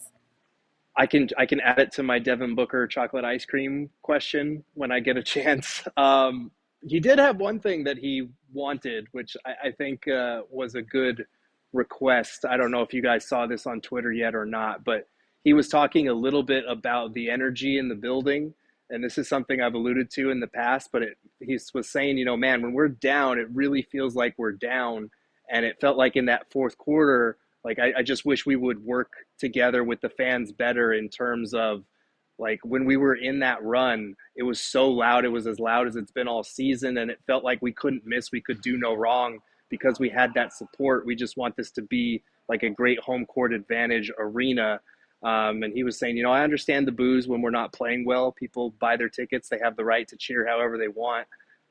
I can add it to my Devin Booker chocolate ice cream question when I get a chance. He did have one thing that he wanted, which I think was a good request. I don't know if you guys saw this on Twitter yet or not, but he was talking a little bit about the energy in the building. And this is something I've alluded to in the past, but he was saying, man, when we're down, it really feels like we're down. And it felt like in that fourth quarter, like I just wish we would work together with the fans better in terms of, like, when we were in that run, it was so loud. It was as loud as it's been all season, and it felt like we couldn't miss. We could do no wrong because we had that support. We just want this to be like a great home court advantage arena. And he was saying, I understand the boos when we're not playing well. People buy their tickets. They have the right to cheer however they want.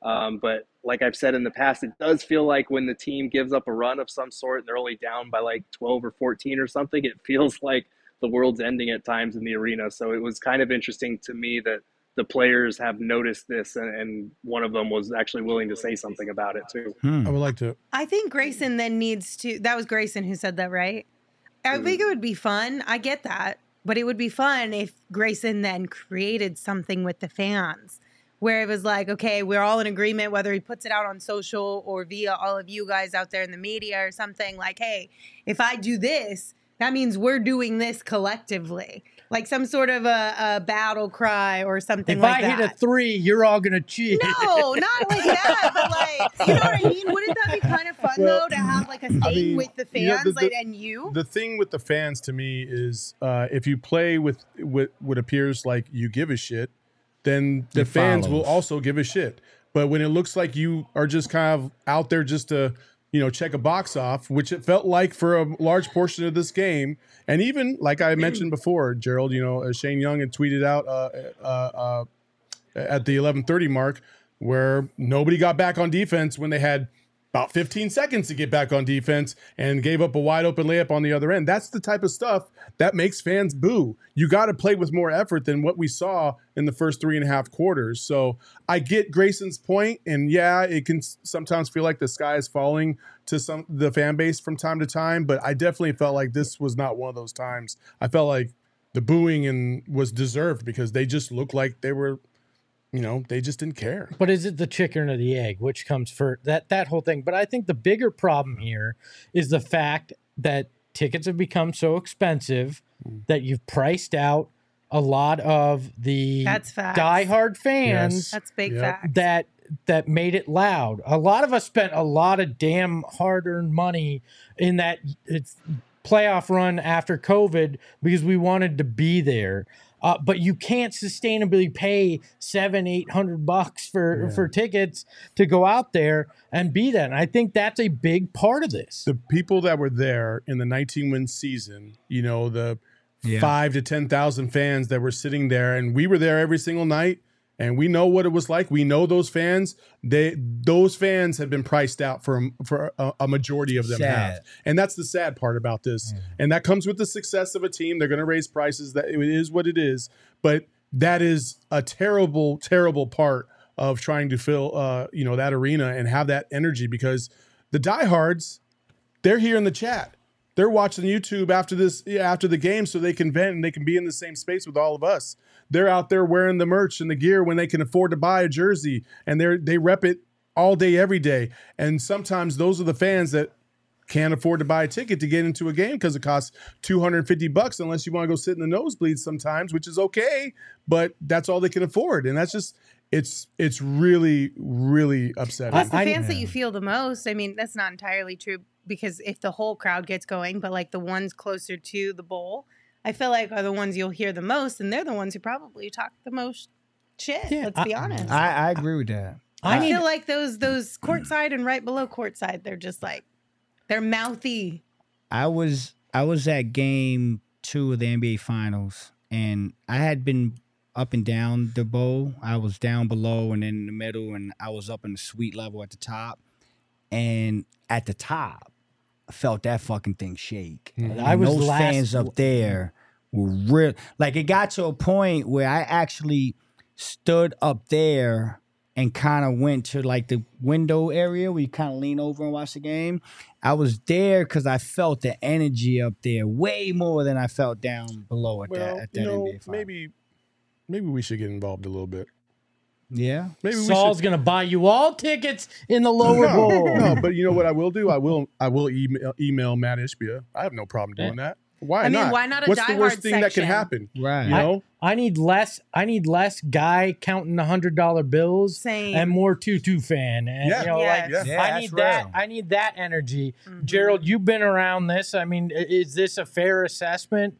But like I've said in the past, it does feel like when the team gives up a run of some sort and they're only down by like 12 or 14 or something, it feels like the world's ending at times in the arena. So it was kind of interesting to me that the players have noticed this, and one of them was actually willing to say something about it too. I would like to. I think Grayson then needs to, that was Grayson who said that, right? I think it would be fun. I get that. But it would be fun if Grayson then created something with the fans where it was like, okay, we're all in agreement, whether he puts it out on social or via all of you guys out there in the media or something like, hey, if I do this, that means we're doing this collectively. Like some sort of a battle cry or something like that. If I hit a 3, you're all going to cheat. No, not like that. But like, you know what I mean? Wouldn't that be kind of fun, though, to have like a thing with the fans and you? The thing with the fans to me is if you play with what appears like you give a shit, then the fans will also give a shit. But when it looks like you are just kind of out there just to, check a box off, which it felt like for a large portion of this game. And even like I mentioned before, Gerald, Shane Young had tweeted out at the 11:30 mark where nobody got back on defense when they had about 15 seconds to get back on defense and gave up a wide open layup on the other end. That's the type of stuff that makes fans boo. You got to play with more effort than what we saw in the first 3.5 quarters. So I get Grayson's point, and yeah, it can sometimes feel like the sky is falling to the fan base from time to time, but I definitely felt like this was not one of those times. I felt like the booing was deserved because they just looked like they were, they just didn't care. But is it the chicken or the egg? Which comes first? That whole thing. But I think the bigger problem here is the fact that tickets have become so expensive that you've priced out a lot of the diehard fans. Yes. That's big fact. That made it loud. A lot of us spent a lot of damn hard-earned money in that playoff run after COVID because we wanted to be there. but you can't sustainably pay $700-800 for tickets to go out there and be that. And I think that's a big part of this. The people that were there in the 19-win season, you know, the 5,000 to 10,000 fans that were sitting there, and we were there every single night, and we know what it was like. We know those fans. Those fans have been priced out for a majority of them have, and that's the sad part about this. And that comes with the success of a team. They're going to raise prices. That it is what it is, but that is a terrible, terrible part of trying to fill, that arena and have that energy, because the diehards, they're here in the chat. They're watching YouTube after the game, so they can vent and they can be in the same space with all of us. They're out there wearing the merch and the gear when they can afford to buy a jersey, and they rep it all day, every day. And sometimes those are the fans that can't afford to buy a ticket to get into a game because it costs $250 unless you want to go sit in the nosebleeds sometimes, which is okay, but that's all they can afford. And that's just it's really, really upsetting. Plus the fans that you feel the most. I mean, that's not entirely true, because if the whole crowd gets going, but like the ones closer to the bowl, I feel like are the ones you'll hear the most, and they're the ones who probably talk the most shit. Let's be honest. I agree with that. I feel like those courtside and right below courtside, they're just like, they're mouthy. I was at game 2 of the NBA Finals, and I had been up and down the bowl. I was down below and then in the middle, and I was up in the suite level at the top. And at the top, I felt that fucking thing shake. Those fans up there were real. Like, it got to a point where I actually stood up there and kind of went to like the window area where you kind of lean over and watch the game. I was there because I felt the energy up there way more than I felt down below at that NBA Finals. Maybe we should get involved a little bit. Yeah. Maybe Saul's going to buy you all tickets in the lower bowl. No, but you know what I will do? I will email Matt Ishbia. I have no problem doing that. Why not? Why not a What's the worst thing that can happen? Right. You know? I need less guy counting $100 bills. Same. And more Tutu fan. And, I need that energy. Mm-hmm. Gerald, you've been around this. I mean, is this a fair assessment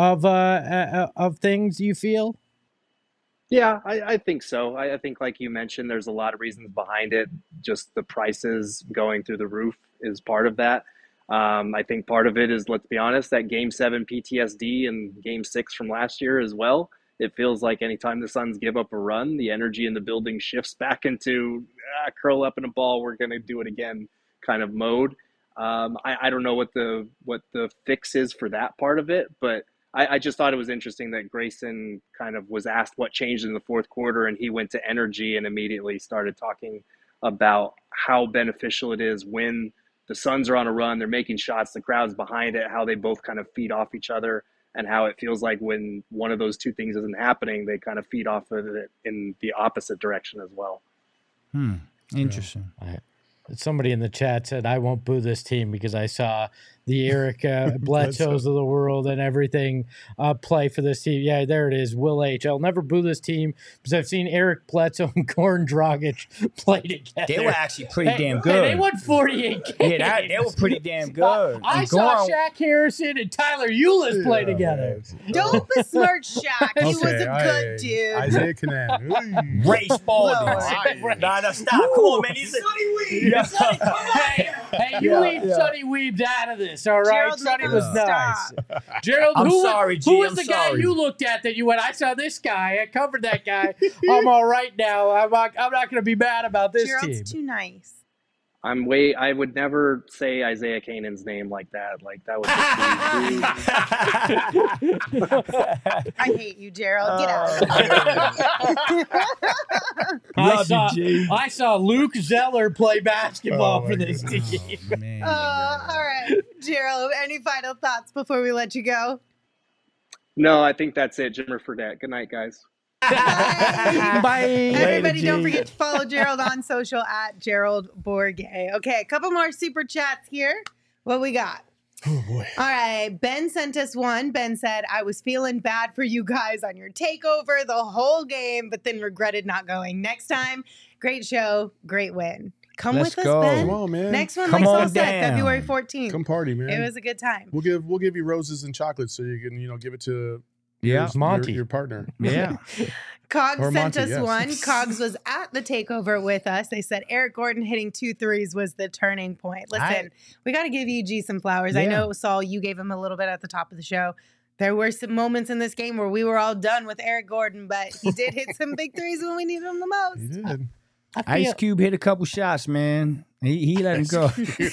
of things you feel? Yeah, I think so. I think, like you mentioned, there's a lot of reasons behind it. Just the prices going through the roof is part of that. I think part of it is, let's be honest, that Game 7 PTSD and Game 6 from last year as well. It feels like anytime the Suns give up a run, the energy in the building shifts back into curl up in a ball, we're going to do it again kind of mode. I don't know what the fix is for that part of it, but I just thought it was interesting that Grayson kind of was asked what changed in the fourth quarter, and he went to energy and immediately started talking about how beneficial it is when the Suns are on a run, they're making shots, the crowd's behind it, how they both kind of feed off each other, and how it feels like when one of those two things isn't happening, they kind of feed off of it in the opposite direction as well. Interesting. Somebody in the chat said, I won't boo this team because I saw the Eric Bledsoes of the world and everything play for this team. Yeah, there it is. Will H. I'll never boo this team because I've seen Eric Bledsoe and Goran Dragic play together. They were actually pretty damn good. They won 48 games. Yeah, they were pretty damn good. I saw Shaq Harrison and Tyler Eulis play together. Don't besmirch Shaq. He was a good dude. Isaiah Canaan. Ray Spalding. No, stop. Come on, man. He's Sonny Weed. Sonny, come on here. Hey, you leave Sonny Weebs out of this, all right? Gerald, Sonny make was him nice. stop. Gerald, I'm who sorry, G, who was I'm the guy sorry. you looked at that you went, I saw this guy, I covered that guy. I'm all right now. I'm not going to be mad about this Gerald's team. too nice. I would never say Isaiah Canaan's name like that. Like, that would just be I hate you, Gerald. Get out. I saw Luke Zeller play basketball for this team. man. All right, Gerald, any final thoughts before we let you go? No, I think that's it. Jimmer Fredette. Good night, guys. Bye. Everybody, don't G. forget to follow Gerald on social at Gerald Bourget. Okay, a couple more super chats here. What we got? Oh, boy. All right, Ben sent us one. Ben said, I was feeling bad for you guys on your takeover the whole game, but then regretted not going. Next time, great show, great win. Come Let's with go. us, Ben. Come on, man. Next one, Come like Saul on said, down. February 14th. Come party, man. It was a good time. We'll give you roses and chocolates so you can give it to Yeah. It's Monty. Your partner. Yeah. Cogs Or sent Monty, us yes. one. Cogs was at the takeover with us. They said Eric Gordon hitting 2 threes was the turning point. Listen, we got to give EG some flowers. I Yeah. know, Saul, you gave him a little bit at the top of the show. There were some moments in this game where we were all done with Eric Gordon, but he did hit some big threes when we needed him the most. He did. Ice Cube hit a couple shots, man. He let him go.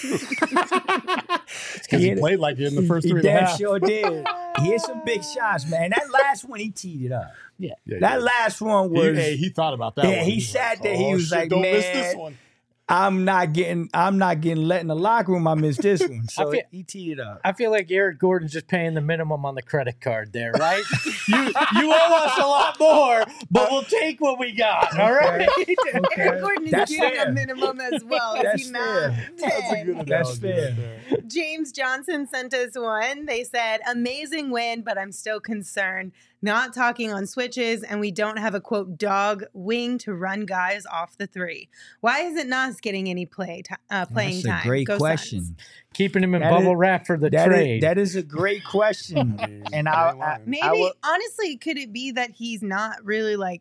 Because he played like it in the first 3 and a damn half. sure did. He hit some big shots, man. That last one, he teed it up. Yeah, That last one was. he thought about that Yeah, one. he was sat like, there. He "Oh, was shit, like, don't man, miss this one. I'm not getting let in the locker room. I missed this one. So feel- he teed it up. I feel like Eric Gordon's just paying the minimum on the credit card there, right? you owe us a lot more, but we'll take what we got. All right. Eric Gordon is That's getting fair. a minimum as well. Is That's he not? fair. That's a good That's analogy right fair. there. James Johnson sent us one. They said, amazing win, but I'm still concerned. Not talking on switches, and we don't have a, quote, dog wing to run guys off the 3. Why isn't Nas getting any playing That's time? a great Go question. Suns. Keeping him in That bubble is- wrap for the That trade. that is a great question. And Maybe, honestly, could it be that he's not really like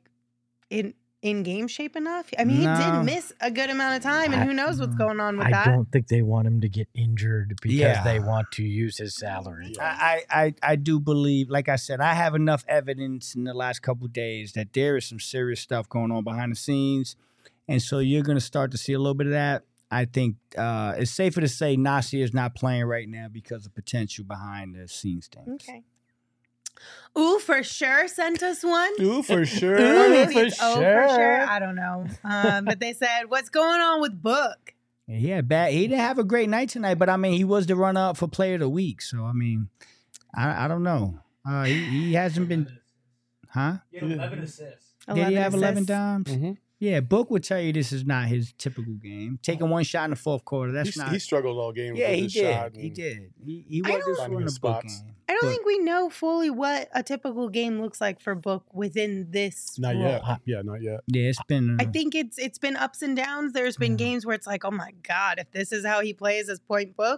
in game shape enough? I mean, he No. did miss a good amount of time, and who knows what's going on with I that. don't think they want him to get injured because Yeah. they want to use his salary. I do believe, like I said, I have enough evidence in the last couple of days that there is some serious stuff going on behind the scenes. And so you're going to start to see a little bit of that. I think it's safer to say Nasir is not playing right now because of potential behind the scenes things. Okay. Ooh, for sure sent us one. Ooh, for sure. Or maybe for it's oh for sure. I don't know. But they said, what's going on with Book? Yeah, bad. He didn't have a great night tonight, but I mean, he was the runner-up for Player of the Week. So I mean, I don't know. He hasn't been, huh? He had 11 assists. Did he have 11 assists. dimes? Mm-hmm. Yeah, Book would tell you this is not his typical game. Taking one shot in the fourth quarter, that's not. He struggled all game. Yeah, with he his did. shot He and- did. He I wasn't don't- scoring Finding the his Book spots. game. I don't But- think we know fully what a typical game looks like for Book within this Not role. yet. Yeah, not yet. Yeah, it's been. I think it's been ups and downs. There's been games where it's like, oh my god, if this is how he plays as point Book,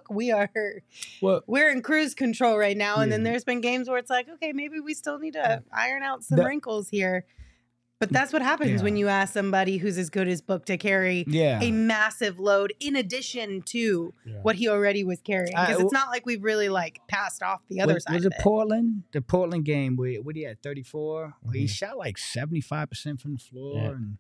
we're in cruise control right now. And then there's been games where it's like, okay, maybe we still need to iron out some wrinkles here. But that's what happens when you ask somebody who's as good as Book to carry a massive load in addition to what he already was carrying. Because it's not like we've really like passed off the other side. Was of it Portland? The Portland game where what he had 34. He shot like 75% from the floor and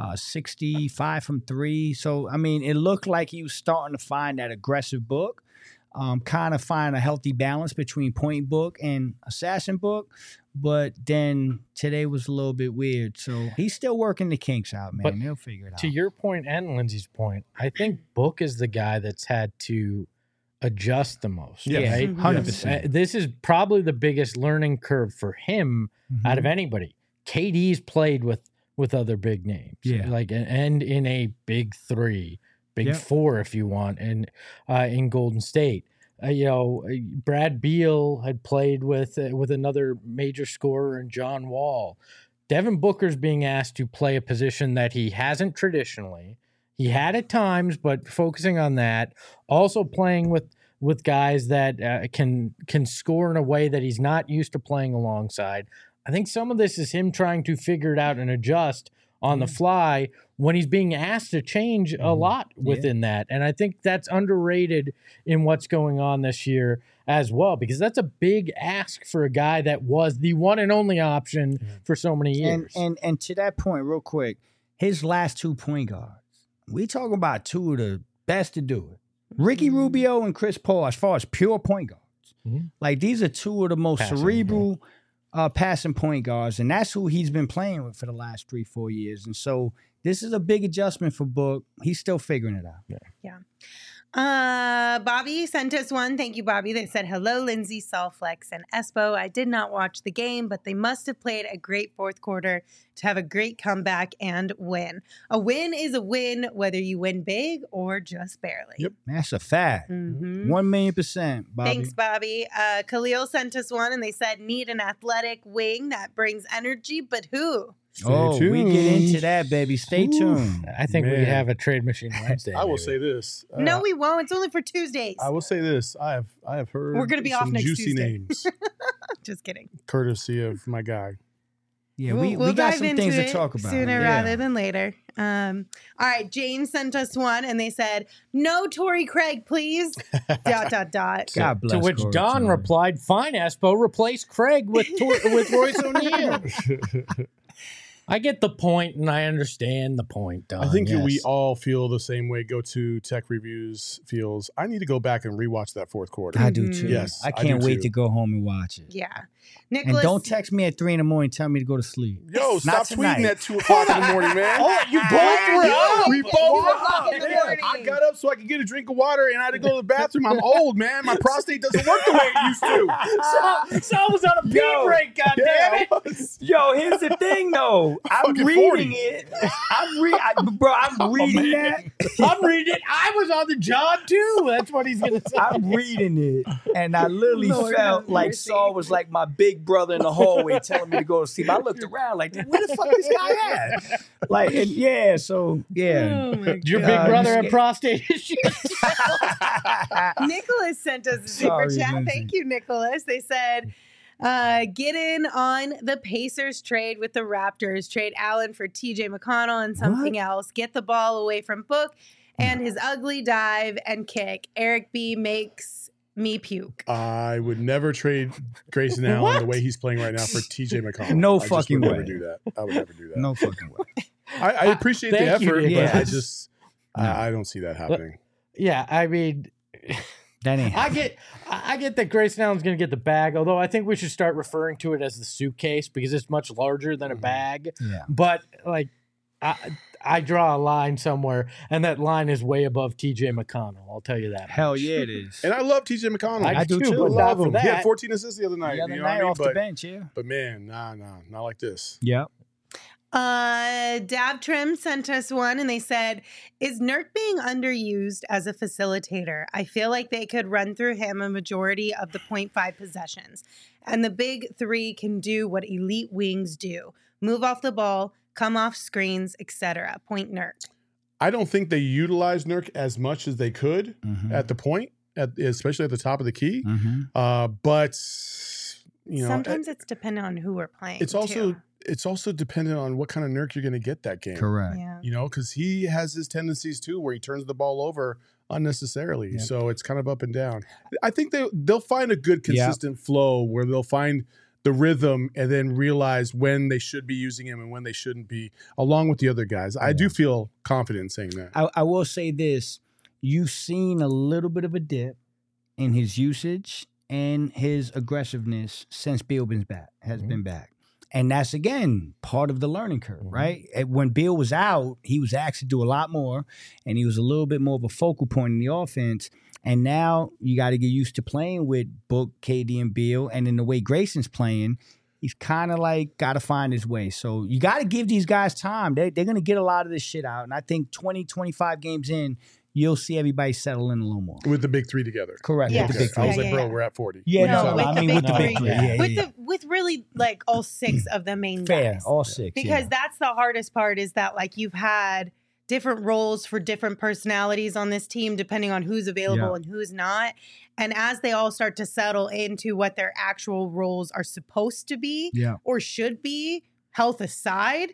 65 from 3. So I mean, it looked like he was starting to find that aggressive Book. Kind of find a healthy balance between point Book and assassin Book. But then today was a little bit weird. So he's still working the kinks out, man. But He'll figure it out. To your point and Lindsay's point, I think Book is the guy that's had to adjust the most. Yeah, right? 100%. This is probably the biggest learning curve for him out of anybody. KD's played with other big names. Yeah. Like and in a big 3, big 4 if you want, and in Golden State. Brad Beal had played with another major scorer in John Wall. Devin Booker's being asked to play a position that he hasn't traditionally. He had at times, but focusing on that. Also playing with guys that can score in a way that he's not used to playing alongside. I think some of this is him trying to figure it out and adjust on the fly when he's being asked to change a lot within that. And I think that's underrated in what's going on this year as well, because that's a big ask for a guy that was the one and only option for so many years. And to that point, real quick, his last 2 point guards, we talking about 2 of the best to do it. Ricky Rubio and Chris Paul, as far as pure point guards. Like, these are 2 of the most cerebral passing point guards, and that's who he's been playing with for the last 3-4 years. And so this is a big adjustment for Book. He's still figuring it out. Yeah. Bobby sent us one. Thank you, Bobby. They said, hello, Lindsay, Solflex, and Espo. I did not watch the game, but they must have played a great fourth quarter to have a great comeback and win. A win is a win, whether you win big or just barely. Yep. That's a fact. 1,000,000%, Bobby. Thanks, Bobby. Khalil sent us one, and they said, need an athletic wing that brings energy, but who? We get into that, baby. Stay tuned. I think we Man. have a trade machine Wednesday. I will maybe. say this. No, we won't. It's only for Tuesdays. I will say this. I have heard We're gonna be off some next juicy Tuesday. names. Just kidding. Courtesy of my guy. Yeah, We'll we got dive some into things to it talk about. sooner Yeah. rather than later. All right, James sent us one, and they said, "No Torrey Craig, please." ... God bless To which Corey Don Torrey. replied, "Fine, Espo, replace Craig with Royce O'Neal." I get the point, and I understand the point, Don. I think yes. we all feel the same way. Go to Tech Reviews feels. I need to go back and rewatch that fourth quarter. I do too. Yes, I I can't do wait too. to go home and watch it. Yeah, And Nicholas. don't text me at 3 in the morning. Tell me to go to sleep. Yo, Not stop tonight. tweeting at 2 o'clock in the morning, man. Oh, you both were up. We both were up. in the Yeah, morning. I got up so I could get a drink of water, and I had to go to the bathroom. I'm old, man. My prostate doesn't work the way it used to. Saul was on a pee Yo. break, Yeah, goddammit. I was. Yo, here's the thing, though. I'm Fucking reading 40. it. I'm reading that. I'm reading it. I was on the job, too. That's what he's going to say. I'm reading it, and I literally Lord felt have like mercy. Saul was like my big brother in the hallway telling me to go to sleep. I looked around like, where the fuck this guy at? Like, and yeah, so yeah. Oh my Your God. big brother you had scared? prostate issues. Nicholas sent us a super Sorry, chat. Lindsay. Thank you, Nicholas. They said, get in on the Pacers trade with the Raptors. Trade Allen for TJ McConnell and something else. Get the ball away from Book and his ugly dive and kick. Eric B makes me puke. I would never trade Grayson Allen the way he's playing right now for TJ McConnell. No I just fucking would way. Never do that. I would never do that. No fucking way. I appreciate the Thank you, effort, Nick. but I Yes. just I don't see that happening. Yeah, I mean, That ain't. I get that Grayson Allen's going to get the bag, although I think we should start referring to it as the suitcase because it's much larger than a bag. Yeah. But like, I draw a line somewhere, and that line is way above TJ McConnell. I'll tell you that. Hell yeah, it is. And I love TJ McConnell. I do too, I but not love for him. He that. had 14 assists the other night. The other you know night what I mean? off the bench, yeah. But man, not like this. Yep. Dab Trim sent us one and they said, "Is Nurk being underused as a facilitator? I feel like they could run through him a majority of the 0.5 possessions. And the big three can do what elite wings do. Move off the ball, come off screens, etc. Point Nurk." I don't think they utilize Nurk as much as they could Mhm. at the point, especially at the top of the key. Mm-hmm. But you know, Sometimes it's dependent on who we're playing. it's also dependent on what kind of Nurk you're going to get that game. Correct. Yeah. You know, because he has his tendencies too, where he turns the ball over unnecessarily. Yep. So it's kind of up and down. I think they'll find a good consistent flow where they'll find the rhythm and then realize when they should be using him and when they shouldn't be, along with the other guys. I do feel confident in saying that. I will say this. You've seen a little bit of a dip in his usage and his aggressiveness since Beal has been back. And that's, again, part of the learning curve, right? When Beal was out, he was asked to do a lot more, and he was a little bit more of a focal point in the offense. And now you got to get used to playing with Book, KD, and Beal. And in the way Grayson's playing, he's kind of like got to find his way. So you got to give these guys time. They're going to get a lot of this shit out. And I think 20, 25 games in, you'll see everybody settle in a little more. With the big three together. Correct. Yes. With the big I was three. like, bro, we're at 40. Yeah, No, no, with I the mean big with the big three. three. Yeah, with yeah. with really like all six of the main Fair, guys. all six. Because yeah. that's the hardest part is that like you've had different roles for different personalities on this team depending on who's available Yeah. and who's not. And as they all start to settle into what their actual roles are supposed to be Yeah. or should be, health aside,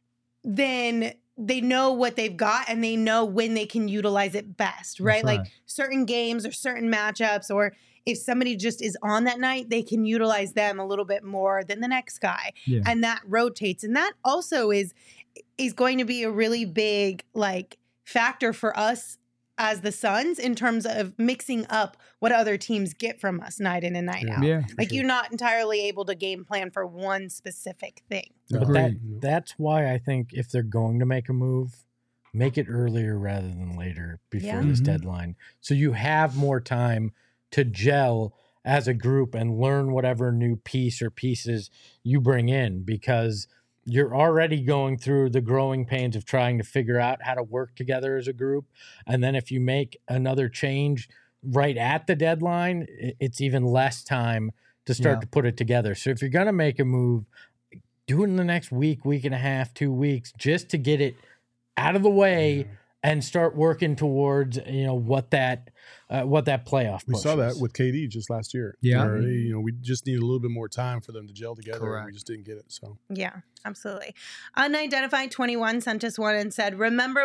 then they know what they've got and they know when they can utilize it best, right? That's Like certain games or certain matchups, or if somebody just is on that night, they can utilize them a little bit more than the next guy. Yeah. And that rotates. And that also is going to be a really big like factor for us as the Suns in terms of mixing up what other teams get from us night in and night out. Yeah. Like you're not entirely able to game plan for one specific thing. But Agreed. that's why I think if they're going to make a move, make it earlier rather than later before Yeah. this Mhm. deadline. So you have more time to gel as a group and learn whatever new piece or pieces you bring in, because you're already going through the growing pains of trying to figure out how to work together as a group. And then if you make another change right at the deadline, it's even less time to start Yeah. to put it together. So if you're going to make a move, do it in the next week, week and a half, 2 weeks, just to get it out of the way and start working towards what that playoff. We push saw that is. with KD just last year. Yeah. where, we just needed a little bit more time for them to gel together. Correct. And we just didn't get it. So Yeah, absolutely. Unidentified 21 sent us one and said,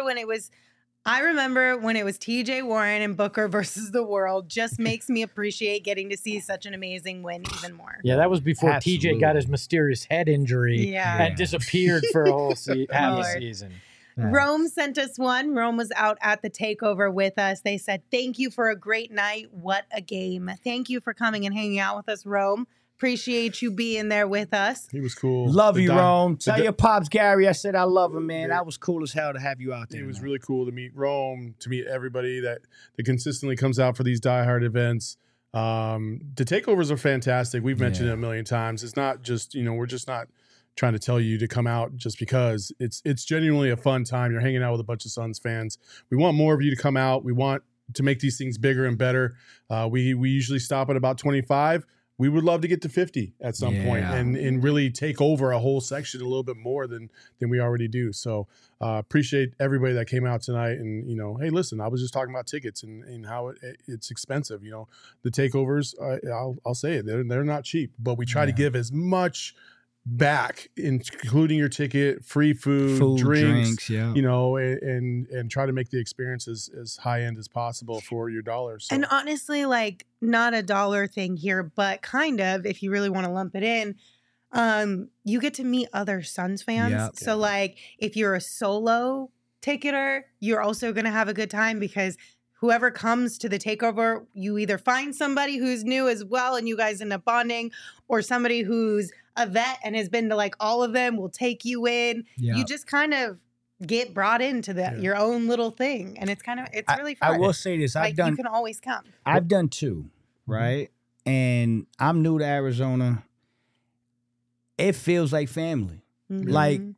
I remember when it was TJ Warren and Booker versus the world. Just makes me appreciate getting to see such an amazing win even more. Yeah, that was before Absolutely. TJ got his mysterious head injury Yeah. and disappeared for a whole half a Lord. season. Rome sent us one. Rome was out at the takeover with us. They said, thank you for a great night. What a game. Thank you for coming and hanging out with us, Rome. Appreciate you being there with us. he was cool. Love The you, di- Rome. the Tell di- your pops, Gary, I said I love him, man. That was cool as hell to have you out there. It was man. really cool to meet Rome, to meet everybody that consistently comes out for these diehard events. The takeovers are fantastic. We've mentioned it a million times. It's not just, we're just not trying to tell you to come out just because. It's genuinely a fun time. You're hanging out with a bunch of Suns fans. We want more of you to come out. We want to make these things bigger and better. We usually stop at about 25. We would love to get to 50 at some point and really take over a whole section a little bit more than we already do. So appreciate everybody that came out tonight. And, hey, listen, I was just talking about tickets and how it's expensive. The takeovers, I'll say it, they're not cheap, but we try to give as much back, including your ticket, free food, drinks, yeah. and try to make the experience as high end as possible for your dollars. So. And honestly, not a dollar thing here, but kind of, if you really want to lump it in, you get to meet other Suns fans. Yep. So if you're a solo ticketer, you're also going to have a good time because whoever comes to the takeover, you either find somebody who's new as well and you guys end up bonding, or somebody who's a vet and has been to all of them will take you in. Yeah. You just kind of get brought into your own little thing, and it's really fun. I will say this: you can always come. I've done two, right? And I'm new to Arizona. It feels like family. Mhm.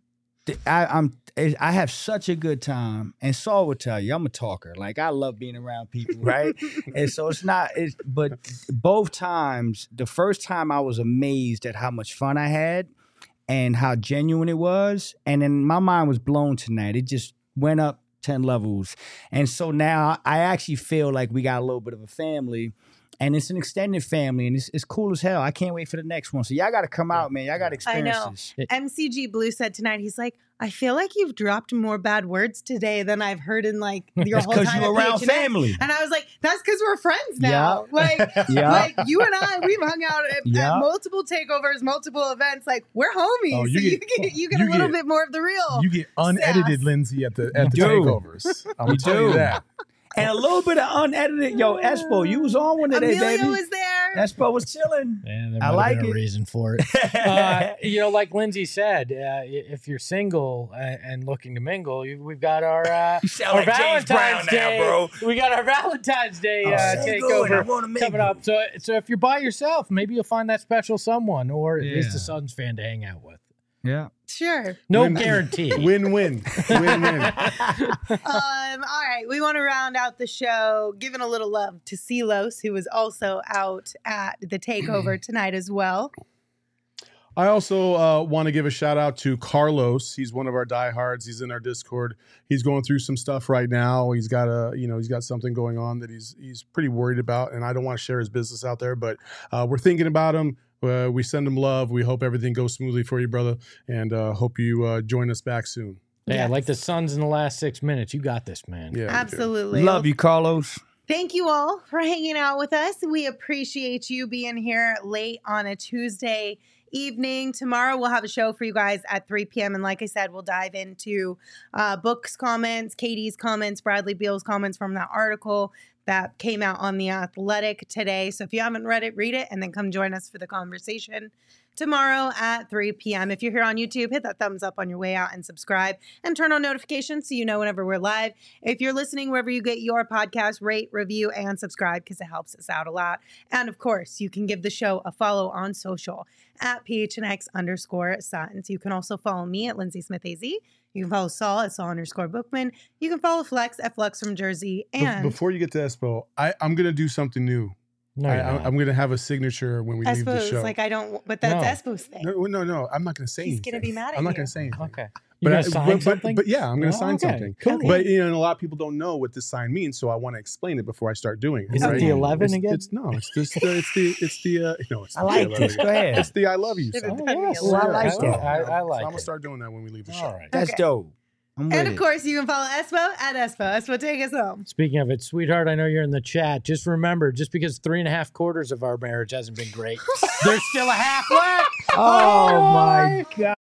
I have such a good time, and Saul would tell you I'm a talker. I love being around people, right? And so but both times, the first time I was amazed at how much fun I had and how genuine it was, and then my mind was blown tonight. It just went up 10 levels, and so now I actually feel like we got a little bit of a family. And it's an extended family, and it's cool as hell. I can't wait for the next one. So y'all got to come out, man. Y'all got to experience this. MCG Blue said tonight, he's like, I feel like you've dropped more bad words today than I've heard in your That's whole because time you're at around PHNX. family. And I was like, that's because we're friends now. Yeah. You and I, we've hung out at multiple takeovers, multiple events. We're homies. Oh, so you get a little bit more of the real. You get unedited sass. Lindsay at the do. takeovers. I'm telling you that. And a little bit of unedited. Yo, Espo, you was on one today, Amelia baby. was there. Espo was chilling. Yeah, there I might like have been it. a reason for it. Like Lindsay said, if you're single and looking to mingle, we've got our You sound our like James Brown Valentine's Day. now, bro. We got our Valentine's Day single and I takeover wanna mingle. coming up. So if you're by yourself, maybe you'll find that special someone, or at least a Suns fan to hang out with. Yeah. Sure. No guarantee. Win-win. Win-win. All right. We want to round out the show, giving a little love to Silos, who was also out at the takeover tonight as well. I also want to give a shout out to Carlos. He's one of our diehards. He's in our Discord. He's going through some stuff right now. He's got he's got something going on that he's pretty worried about, and I don't want to share his business out there, but we're thinking about him. We send him love. We hope everything goes smoothly for you, brother, and hope you join us back soon. Yeah, like the Suns in the last 6 minutes. You got this, man. Yeah, Absolutely. Love you, Carlos. Thank you all for hanging out with us. We appreciate you being here late on a Tuesday evening. Tomorrow we'll have a show for you guys at 3 p.m. And like I said, we'll dive into Book's comments, Katie's comments, Bradley Beal's comments from that article that came out on The Athletic today. So if you haven't read it, read it, and then come join us for the conversation tomorrow at 3 p.m. If you're here on YouTube, hit that thumbs up on your way out and subscribe and turn on notifications so you know whenever we're live. If you're listening wherever you get your podcast, rate, review, and subscribe because it helps us out a lot. And of course, you can give the show a follow on social at PHNX_Suns. You can also follow me at Lindsay Smith AZ. You can follow Saul at Saul_Bookman. You can follow Flex at Flex from Jersey. And Before you get to Espo, I'm going to do something new. No, I'm going to have a signature when we leave the Espo's show. I don't, but that's Espo's thing. No, I'm not going to say He's anything. going to be mad at you. I'm not going to say anything. Okay. You're gonna sign something? But yeah, I'm going to sign okay. something. Cool. But you know, and a lot of people don't know what this sign means, so I want to explain it before I start doing it. Is it the 11 again? It's just it's the no. It's I like the this. Go ahead. It's the I love you Should've sign. done me Oh, I like alone. that. I like So I'm gonna it. start doing that when we leave the show. All right. That's Okay. dope. I'm with And of it. course, you can follow Espo at Espo. Espo, take us home. Speaking of it, sweetheart, I know you're in the chat. Just remember, just because 3.5 quarters of our marriage hasn't been great, there's still a half left. Oh my God.